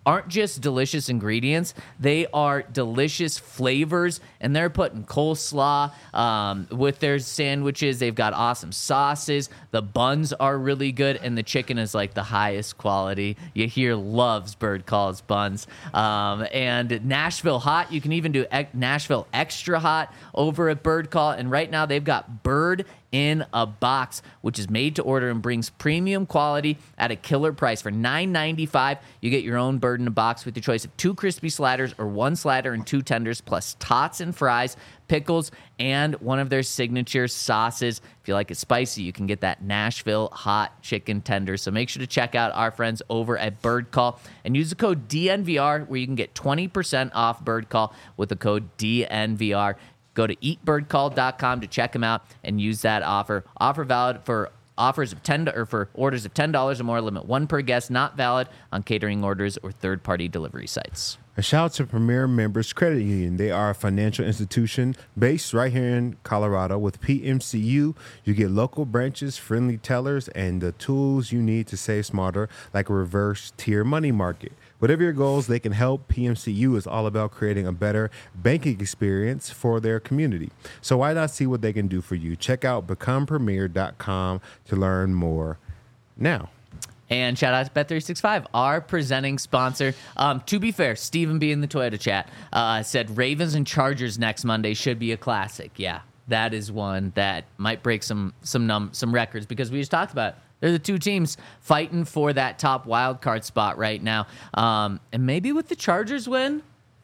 B: aren't just delicious ingredients. They are delicious flavors, and they're putting coleslaw um, with their sandwiches. They've got awesome sauces. The buns are really good, and the chicken is like the highest quality. You hear loves Bird Call's buns. Um, and Nashville Hot, you can even do e- Nashville Extra Hot over at Bird Call. And right now they've got Bird in a Box, which is made to order and brings premium quality at a killer price. For nine ninety-five, you get your own Bird in a Box with your choice of two crispy sliders or one slider and two tenders, plus tots and fries, pickles, and one of their signature sauces. If you like it spicy, you can get that Nashville Hot Chicken Tender. So make sure to check out our friends over at Bird Call and use the code D N V R where you can get twenty percent off Bird Call with the code D N V R. Go to eat bird call dot com to check them out and use that offer. Offer valid for offers of ten or for orders of ten dollars or more. Limit one per guest. Not valid on catering orders or third-party delivery sites.
C: A shout out to Premier Members Credit Union. They are a financial institution based right here in Colorado. With P M C U, you get local branches, friendly tellers, and the tools you need to save smarter, like a reverse tier money market. Whatever your goals, they can help. P M C U is all about creating a better banking experience for their community. So why not see what they can do for you? Check out become premier dot com to learn more now.
B: And shout out to Bet three sixty-five, our presenting sponsor. Um, to be fair, Stephen B in the Toyota chat uh, said Ravens and Chargers next Monday should be a classic. Yeah, that is one that might break some some num- some records because we just talked about it. They're the two teams fighting for that top wild card spot right now. Um, and maybe with the Chargers win,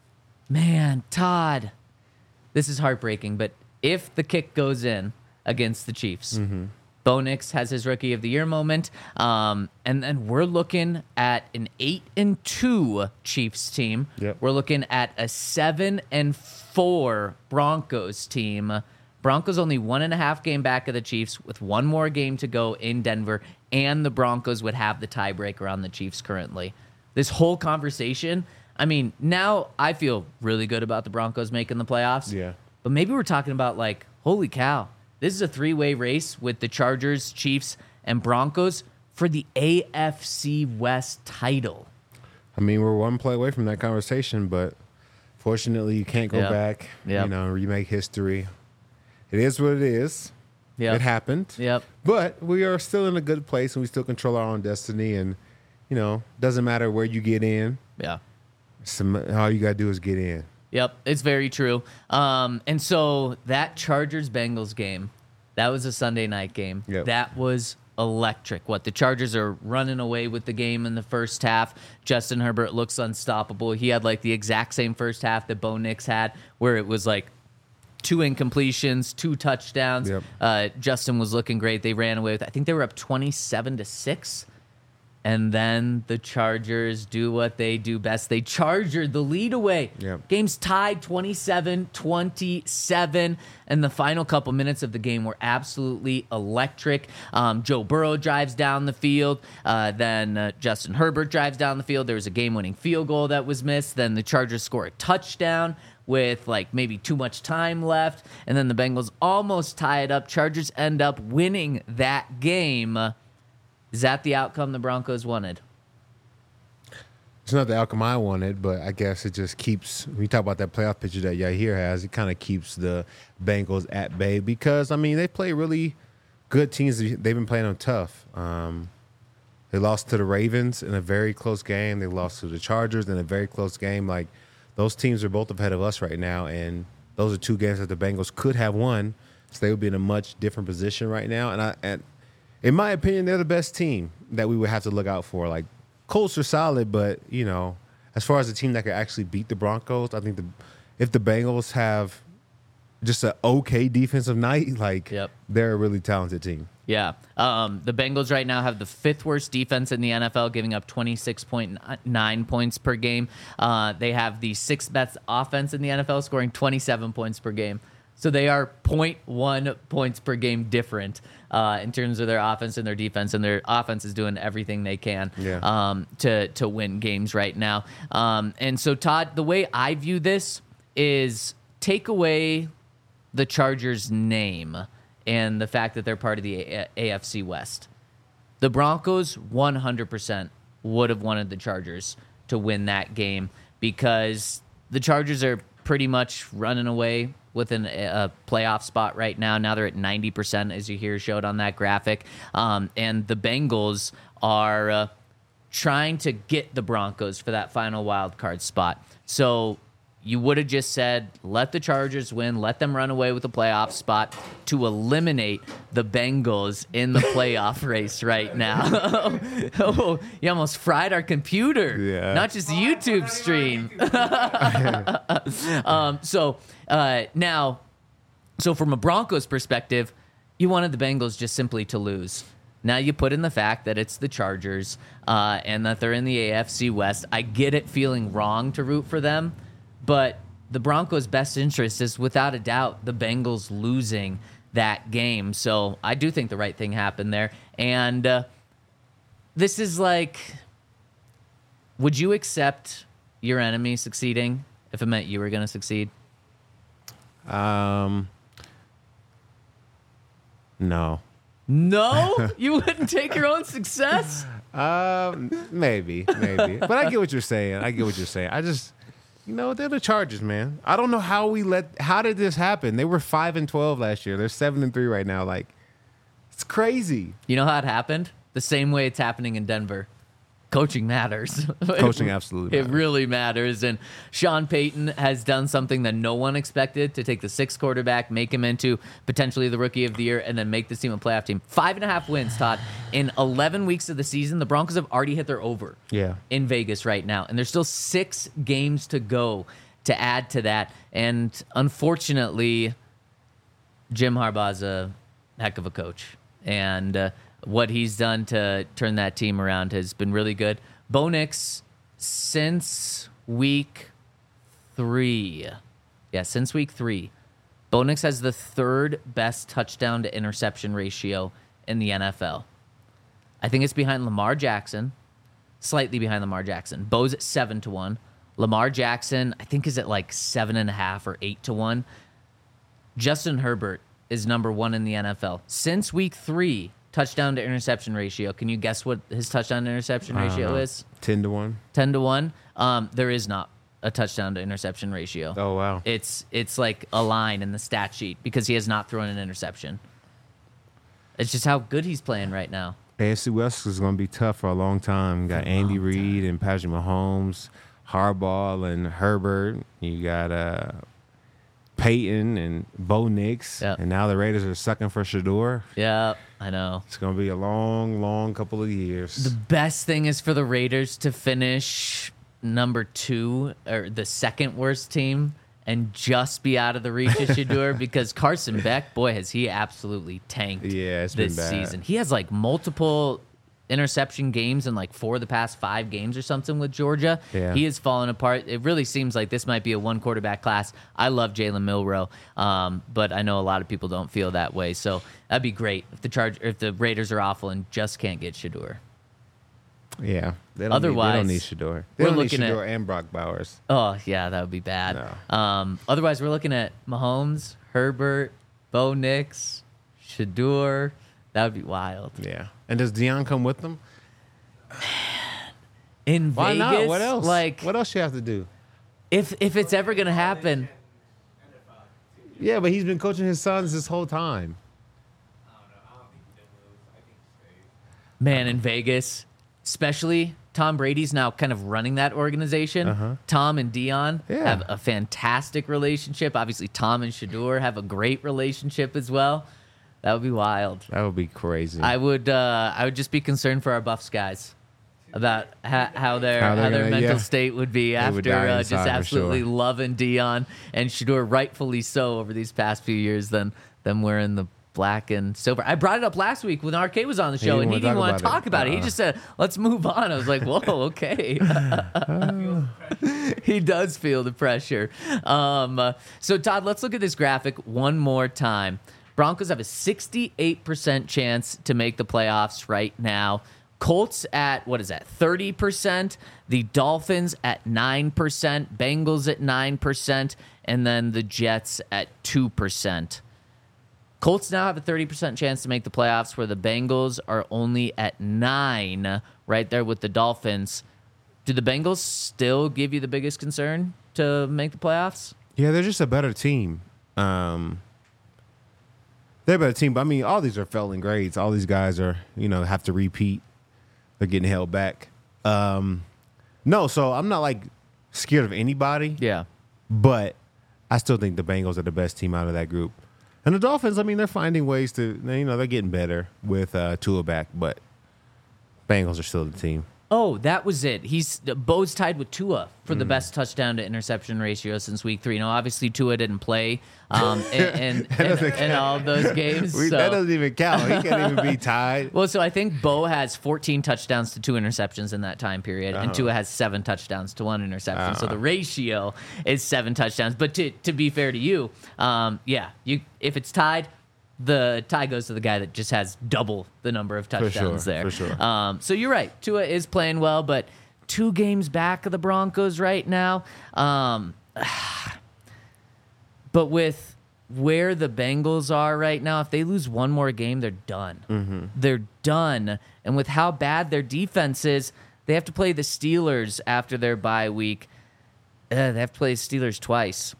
B: man, Todd, this is heartbreaking. But if the kick goes in against the Chiefs, mm-hmm. Bo Nix has his Rookie of the Year moment, um, and then we're looking at an eight and two Chiefs team.
C: Yep.
B: We're looking at a seven and four Broncos team. Broncos only one and a half game back of the Chiefs with one more game to go in Denver, and the Broncos would have the tiebreaker on the Chiefs currently. This whole conversation, I mean, now I feel really good about the Broncos making the playoffs.
C: Yeah.
B: But maybe we're talking about like, holy cow, this is a three-way race with the Chargers, Chiefs, and Broncos for the A F C West title.
C: I mean, we're one play away from that conversation, but fortunately you can't go
B: Yep.
C: back,
B: Yep.
C: you know, remake history. It is what it is.
B: Yep.
C: It happened.
B: Yep.
C: But we are still in a good place, and we still control our own destiny. And, you know, doesn't matter where you get in.
B: Yeah.
C: Some, all you got to do is get in.
B: Yep, it's very true. Um, and so that Chargers-Bengals game, that was a Sunday night game.
C: Yep.
B: That was electric. What, the Chargers are running away with the game in the first half. Justin Herbert looks unstoppable. He had like the exact same first half that Bo Nix had, where it was like two incompletions, two touchdowns.
C: Yep.
B: Uh, Justin was looking great. They ran away with, I think they were up twenty-seven to six. And then the Chargers do what they do best. They chargered the lead away.
C: Yep.
B: Game's tied twenty-seven twenty-seven. And the final couple minutes of the game were absolutely electric. Um, Joe Burrow drives down the field. Uh, then uh, Justin Herbert drives down the field. There was a game-winning field goal that was missed. Then the Chargers score a touchdown with like maybe too much time left. And then the Bengals almost tie it up. Chargers end up winning that game. Is that the outcome the Broncos wanted?
C: It's not the outcome I wanted, but I guess it just keeps, when you talk about that playoff picture that Yahir has, it kind of keeps the Bengals at bay because, I mean, they play really good teams. They've been playing them tough. Um, they lost to the Ravens in a very close game. They lost to the Chargers in a very close game. Like, those teams are both ahead of us right now, and those are two games that the Bengals could have won, so they would be in a much different position right now. And I, and in my opinion, they're the best team that we would have to look out for. Like, Colts are solid, but, you know, as far as a team that could actually beat the Broncos, I think the if the Bengals have just an okay defensive night, like,
B: Yep.
C: they're a really talented team.
B: Yeah. Um, the Bengals right now have the fifth worst defense in the N F L, giving up twenty-six point nine points per game. Uh, they have the sixth best offense in the N F L, scoring twenty-seven points per game. So they are zero point one points per game different uh, in terms of their offense and their defense, and their offense is doing everything they can
C: Yeah.
B: um, to to win games right now. Um, and so, Todd, the way I view this is take away the Chargers' name and the fact that they're part of the A- AFC West. The Broncos one hundred percent would have wanted the Chargers to to win that game because the Chargers are pretty much running away with an, a playoff spot right now. Now they're at ninety percent, as you hear showed on that graphic. Um, and the Bengals are uh, trying to get the Broncos for that final wild card spot. So you would have just said, let the Chargers win, let them run away with the playoff spot to eliminate the Bengals in the playoff race right now. Oh, you almost fried our computer,
C: Yeah.
B: not just the YouTube stream. um, so uh, now, so from a Broncos perspective, you wanted the Bengals just simply to lose. Now you put in the fact that it's the Chargers uh, and that they're in the A F C West. I get it feeling wrong to root for them, but the Broncos' best interest is without a doubt the Bengals losing that game. So I do think the right thing happened there. And uh, this is like, would you accept your enemy succeeding if it meant you were going to succeed?
C: Um, no.
B: No? You wouldn't take your own success?
C: Um, maybe, maybe. But I get what you're saying. I get what you're saying. I just, you know, they're the Chargers, man. I don't know how we let. How did this happen? They were five and twelve last year. They're seven and three right now. Like, it's crazy.
B: You know how it happened? The same way it's happening in Denver. Coaching matters.
C: Coaching absolutely
B: It
C: matters.
B: really matters. And Sean Payton has done something that no one expected, to take the sixth quarterback, make him into potentially the rookie of the year, and then make this team a playoff team. Five and a half wins, Todd. In eleven weeks of the season, the Broncos have already hit their over
C: Yeah.
B: in Vegas right now. And there's still six games to go to add to that. And unfortunately, Jim Harbaugh's a heck of a coach. And uh, what he's done to turn that team around has been really good. Bo Nix, since week three, yeah, since week three, Bo Nix has the third best touchdown to interception ratio in the N F L. I think it's behind Lamar Jackson, slightly behind Lamar Jackson. Bo's at seven to one. Lamar Jackson, I think, is at like seven and a half or eight to one. Justin Herbert is number one in the N F L since week three. Touchdown to interception ratio. Can you guess what his touchdown to interception
C: I don't
B: ratio
C: know.
B: is?
C: Ten to one.
B: ten to one. Um, there is not a touchdown to interception ratio.
C: Oh wow.
B: It's it's like a line in the stat sheet because he has not thrown an interception. It's just how good he's playing right now.
C: A F C West is going to be tough for a long time. You got Andy Reid and Patrick Mahomes, Harbaugh and Herbert. You got uh, Peyton and Bo Nix.
B: Yep.
C: And now the Raiders are sucking for Shador.
B: Yeah, I know.
C: It's going to be a long, long couple of years.
B: The best thing is for the Raiders to finish number two or the second worst team and just be out of the reach of Shador because Carson Beck, boy, has he absolutely tanked
C: Yeah, it's been
B: this
C: bad.
B: season. He has like multiple interception games in like four of the past five games or something with Georgia.
C: Yeah.
B: He is falling apart. It really seems like this might be a one quarterback class. I love Jalen Milroe, um, but I know a lot of people don't feel that way. So that'd be great if the charge if the Raiders are awful and just can't get Shador.
C: Yeah. They don't
B: Otherwise,
C: need, they don't need Shador. They
B: we're
C: don't need
B: looking at-
C: Shador and Brock Bowers.
B: Oh, yeah, that would be bad.
C: No.
B: Um, otherwise, we're looking at Mahomes, Herbert, Bo Nix, Shador. That would be wild.
C: Yeah. And does Deion come with them?
B: In
C: Why
B: Vegas,
C: not? What else?
B: Like,
C: What else you have to do?
B: if if it's ever going to happen,
C: Yeah, but he's been coaching his sons this whole time.
B: man, in Vegas, especially Tom Brady's now kind of running that organization.
C: Uh-huh.
B: Tom and Dion
C: Yeah.
B: have a fantastic relationship. Obviously, Tom and Shador have a great relationship as well. That would be wild.
C: That would be crazy.
B: I would uh, I would just be concerned for our Buffs guys about ha- how their
C: How
B: how,
C: they're
B: their
C: gonna-
B: mental
C: yeah.
B: state would be
C: They
B: after
C: would die
B: uh, just
C: inside for
B: absolutely
C: sure.
B: loving Dion and Shador, rightfully so, over these past few years. Than them wearing the black and silver. I brought it up last week when R K was on the show,
C: didn't
B: and he
C: wanna
B: didn't
C: talk
B: want to
C: about
B: talk
C: it.
B: about it. He
C: Uh-uh.
B: just said, "Let's move on." I was like, "Whoa, okay." He does feel the pressure. Um, uh, so, Todd, let's look at this graphic one more time. Broncos have a sixty-eight percent chance to make the playoffs right now. Colts at, what is that, thirty percent. The Dolphins at nine percent. Bengals at nine percent. And then the Jets at two percent. Colts now have a thirty percent chance to make the playoffs, where the Bengals are only at nine, right there with the Dolphins. do the Bengals still give you the biggest concern to make the playoffs?
C: Yeah, they're just a better team. Um, they're a better team, but I mean, all these are failing grades. All these guys are, you know, have to repeat. They're getting held back. Um, no, so I'm not like scared of anybody.
B: Yeah.
C: But I still think the Bengals are the best team out of that group. And the Dolphins, I mean, they're finding ways to, you know, they're getting better with uh, Tua back, but Bengals are still the team.
B: Oh, that was it. He's Bo's tied with Tua for the best touchdown to interception ratio since week three. You know, obviously Tua didn't play um, in, in, in, in all of those games.
C: We,
B: so.
C: That doesn't even count. He can't even be tied.
B: Well, so I think Bo has fourteen touchdowns to two interceptions in that time period, and
C: Uh-huh.
B: Tua has seven touchdowns to one interception. So the ratio is seven touchdowns. But to to be fair to you, um, yeah, you if it's tied, the tie goes to the guy that just has double the number of touchdowns
C: sure,
B: there.
C: for sure.
B: Um, so you're right. Tua is playing well, but two games back of the Broncos right now. Um, but with where the Bengals are right now, if they lose one more game, they're done.
C: Mm-hmm.
B: They're done. And with how bad their defense is, they have to play the Steelers after their bye week. Uh, they have to play the Steelers twice.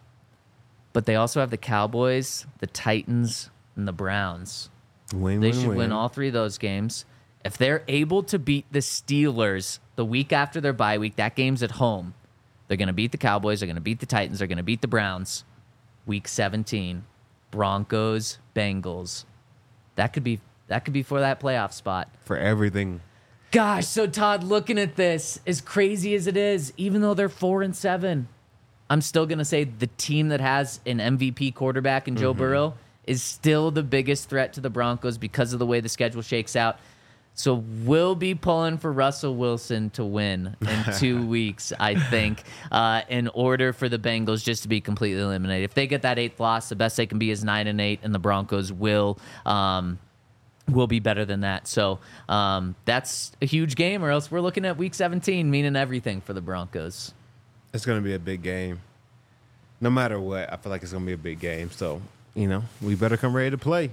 B: But they also have the Cowboys, the Titans, and the Browns.
C: Win,
B: They
C: win,
B: should
C: win.
B: win all three of those games. If they're able to beat the Steelers the week after their bye week, that game's at home. They're going to beat the Cowboys. They're going to beat the Titans. They're going to beat the Browns. Week seventeen, Broncos, Bengals. That could be that could be for that playoff spot.
C: For everything.
B: Gosh, so Todd, looking at this, as crazy as it is, even though they're four and seven, I'm still going to say the team that has an M V P quarterback in Joe Burrow is still the biggest threat to the Broncos because of the way the schedule shakes out. So we'll be pulling for Russell Wilson to win in two weeks, I think, uh, in order for the Bengals just to be completely eliminated. If they get that eighth loss, the best they can be is nine and eight, and the Broncos will um, will be better than that. So um, that's a huge game, or else we're looking at Week seventeen, meaning everything for the Broncos.
C: It's going to be a big game. No matter what, I feel like it's going to be a big game. So, you know, we better come ready to play.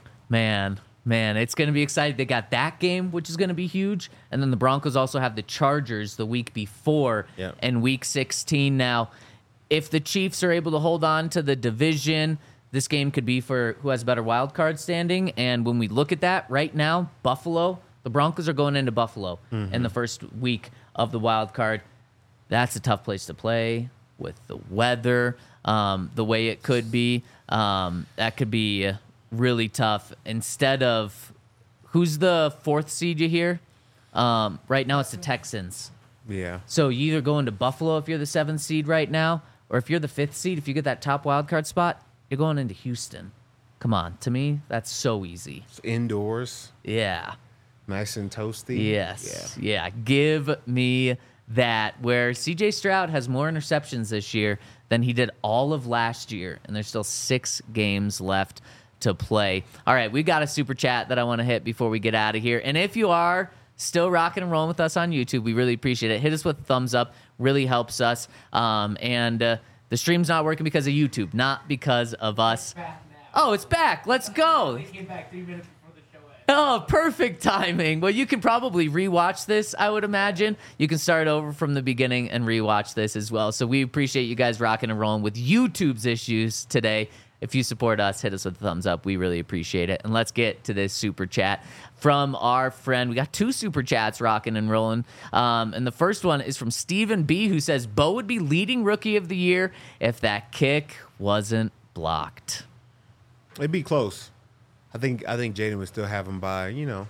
B: Man, man, it's going to be exciting. They got that game, which is going to be huge. And then the Broncos also have the Chargers the week before
C: Yeah.
B: and week sixteen. Now, if the Chiefs are able to hold on to the division, this game could be for who has a better wild card standing. And when we look at that right now, Buffalo, the Broncos are going into Buffalo in the first week of the wild card. That's a tough place to play with the weather, um, the way it could be. Um, that could be really tough. Instead of who's the fourth seed you hear? Um, right now it's the Texans.
C: Yeah.
B: So you either go into Buffalo if you're the seventh seed right now, or if you're the fifth seed, if you get that top wild card spot, you're going into Houston. Come on, to me, that's so easy.
C: It's indoors,
B: Yeah.
C: nice and toasty.
B: Yes. Yeah. Give me that. Where C J Stroud has more interceptions this year than he did all of last year, and there's still six games left to play. All right, we got a super chat that I want to hit before we get out of here. And if you are still rocking and rolling with us on YouTube, we really appreciate it. Hit us with a thumbs up. Really helps us. Um, and uh, the stream's not working because of YouTube, not because of us. Oh, it's back. Let's go.
E: Came back three minutes before the show ended.
B: Oh, perfect timing. Well, you can probably rewatch this, I would imagine. You can start over from the beginning and rewatch this as well. So we appreciate you guys rocking and rolling with YouTube's issues today. If you support us, hit us with a thumbs up. We really appreciate it. And let's get to this super chat from our friend. We got two super chats rocking and rolling. Um, and the first one is from Stephen B., who says, Bo would be leading rookie of the year if that kick wasn't blocked.
C: It'd be close. I think I think Jaden would still have him by, you know,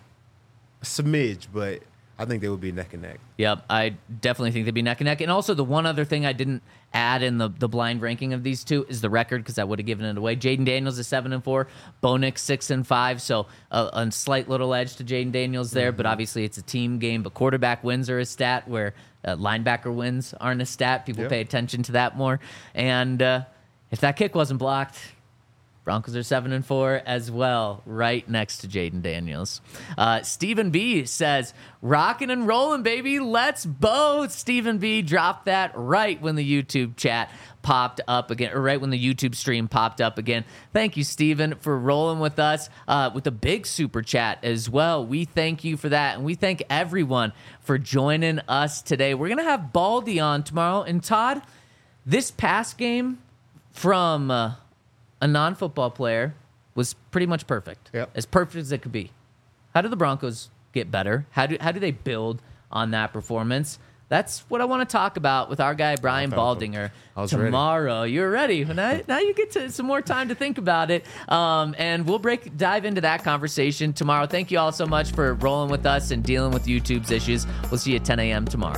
C: a smidge, but I think they would be neck and neck.
B: Yep, I definitely think they'd be neck and neck. And also, the one other thing I didn't add in the, the blind ranking of these two is the record, because I would have given it away. Jaden Daniels is seven and four, Bo Nix six and five, so a, a slight little edge to Jaden Daniels there. Mm-hmm. But obviously, it's a team game. But quarterback wins are a stat, where uh, linebacker wins aren't a stat. People
C: Yep.
B: pay attention to that more. And uh, if that kick wasn't blocked, Broncos are seven and four as well, right next to Jaden Daniels. Uh, Stephen B says, rocking and rolling, baby. Let's both. Stephen B dropped that right when the YouTube chat popped up again, or right when the YouTube stream popped up again. Thank you, Stephen, for rolling with us uh, with a big super chat as well. We thank you for that, and we thank everyone for joining us today. We're going to have Baldy on tomorrow. And Todd, this past game from... Uh, a non-football player was pretty much perfect.
C: Yep.
B: As perfect as it could be. How do the Broncos get better? How do how do they build on that performance? That's what I want to talk about with our guy Brian Baldinger
C: I was
B: tomorrow. Ready. You're ready. Now, now you get to some more time to think about it, um, and we'll break dive into that conversation tomorrow. Thank you all so much for rolling with us and dealing with YouTube's issues. We'll see you at ten a.m. tomorrow.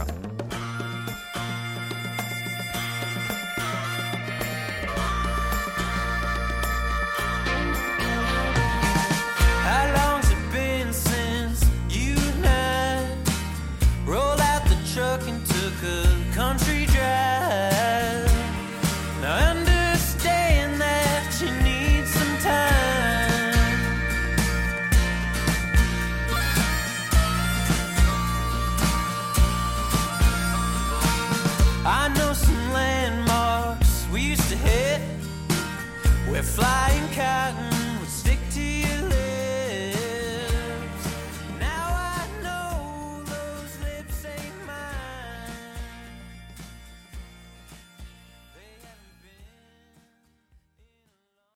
A: Rolled out the truck and took a country drive.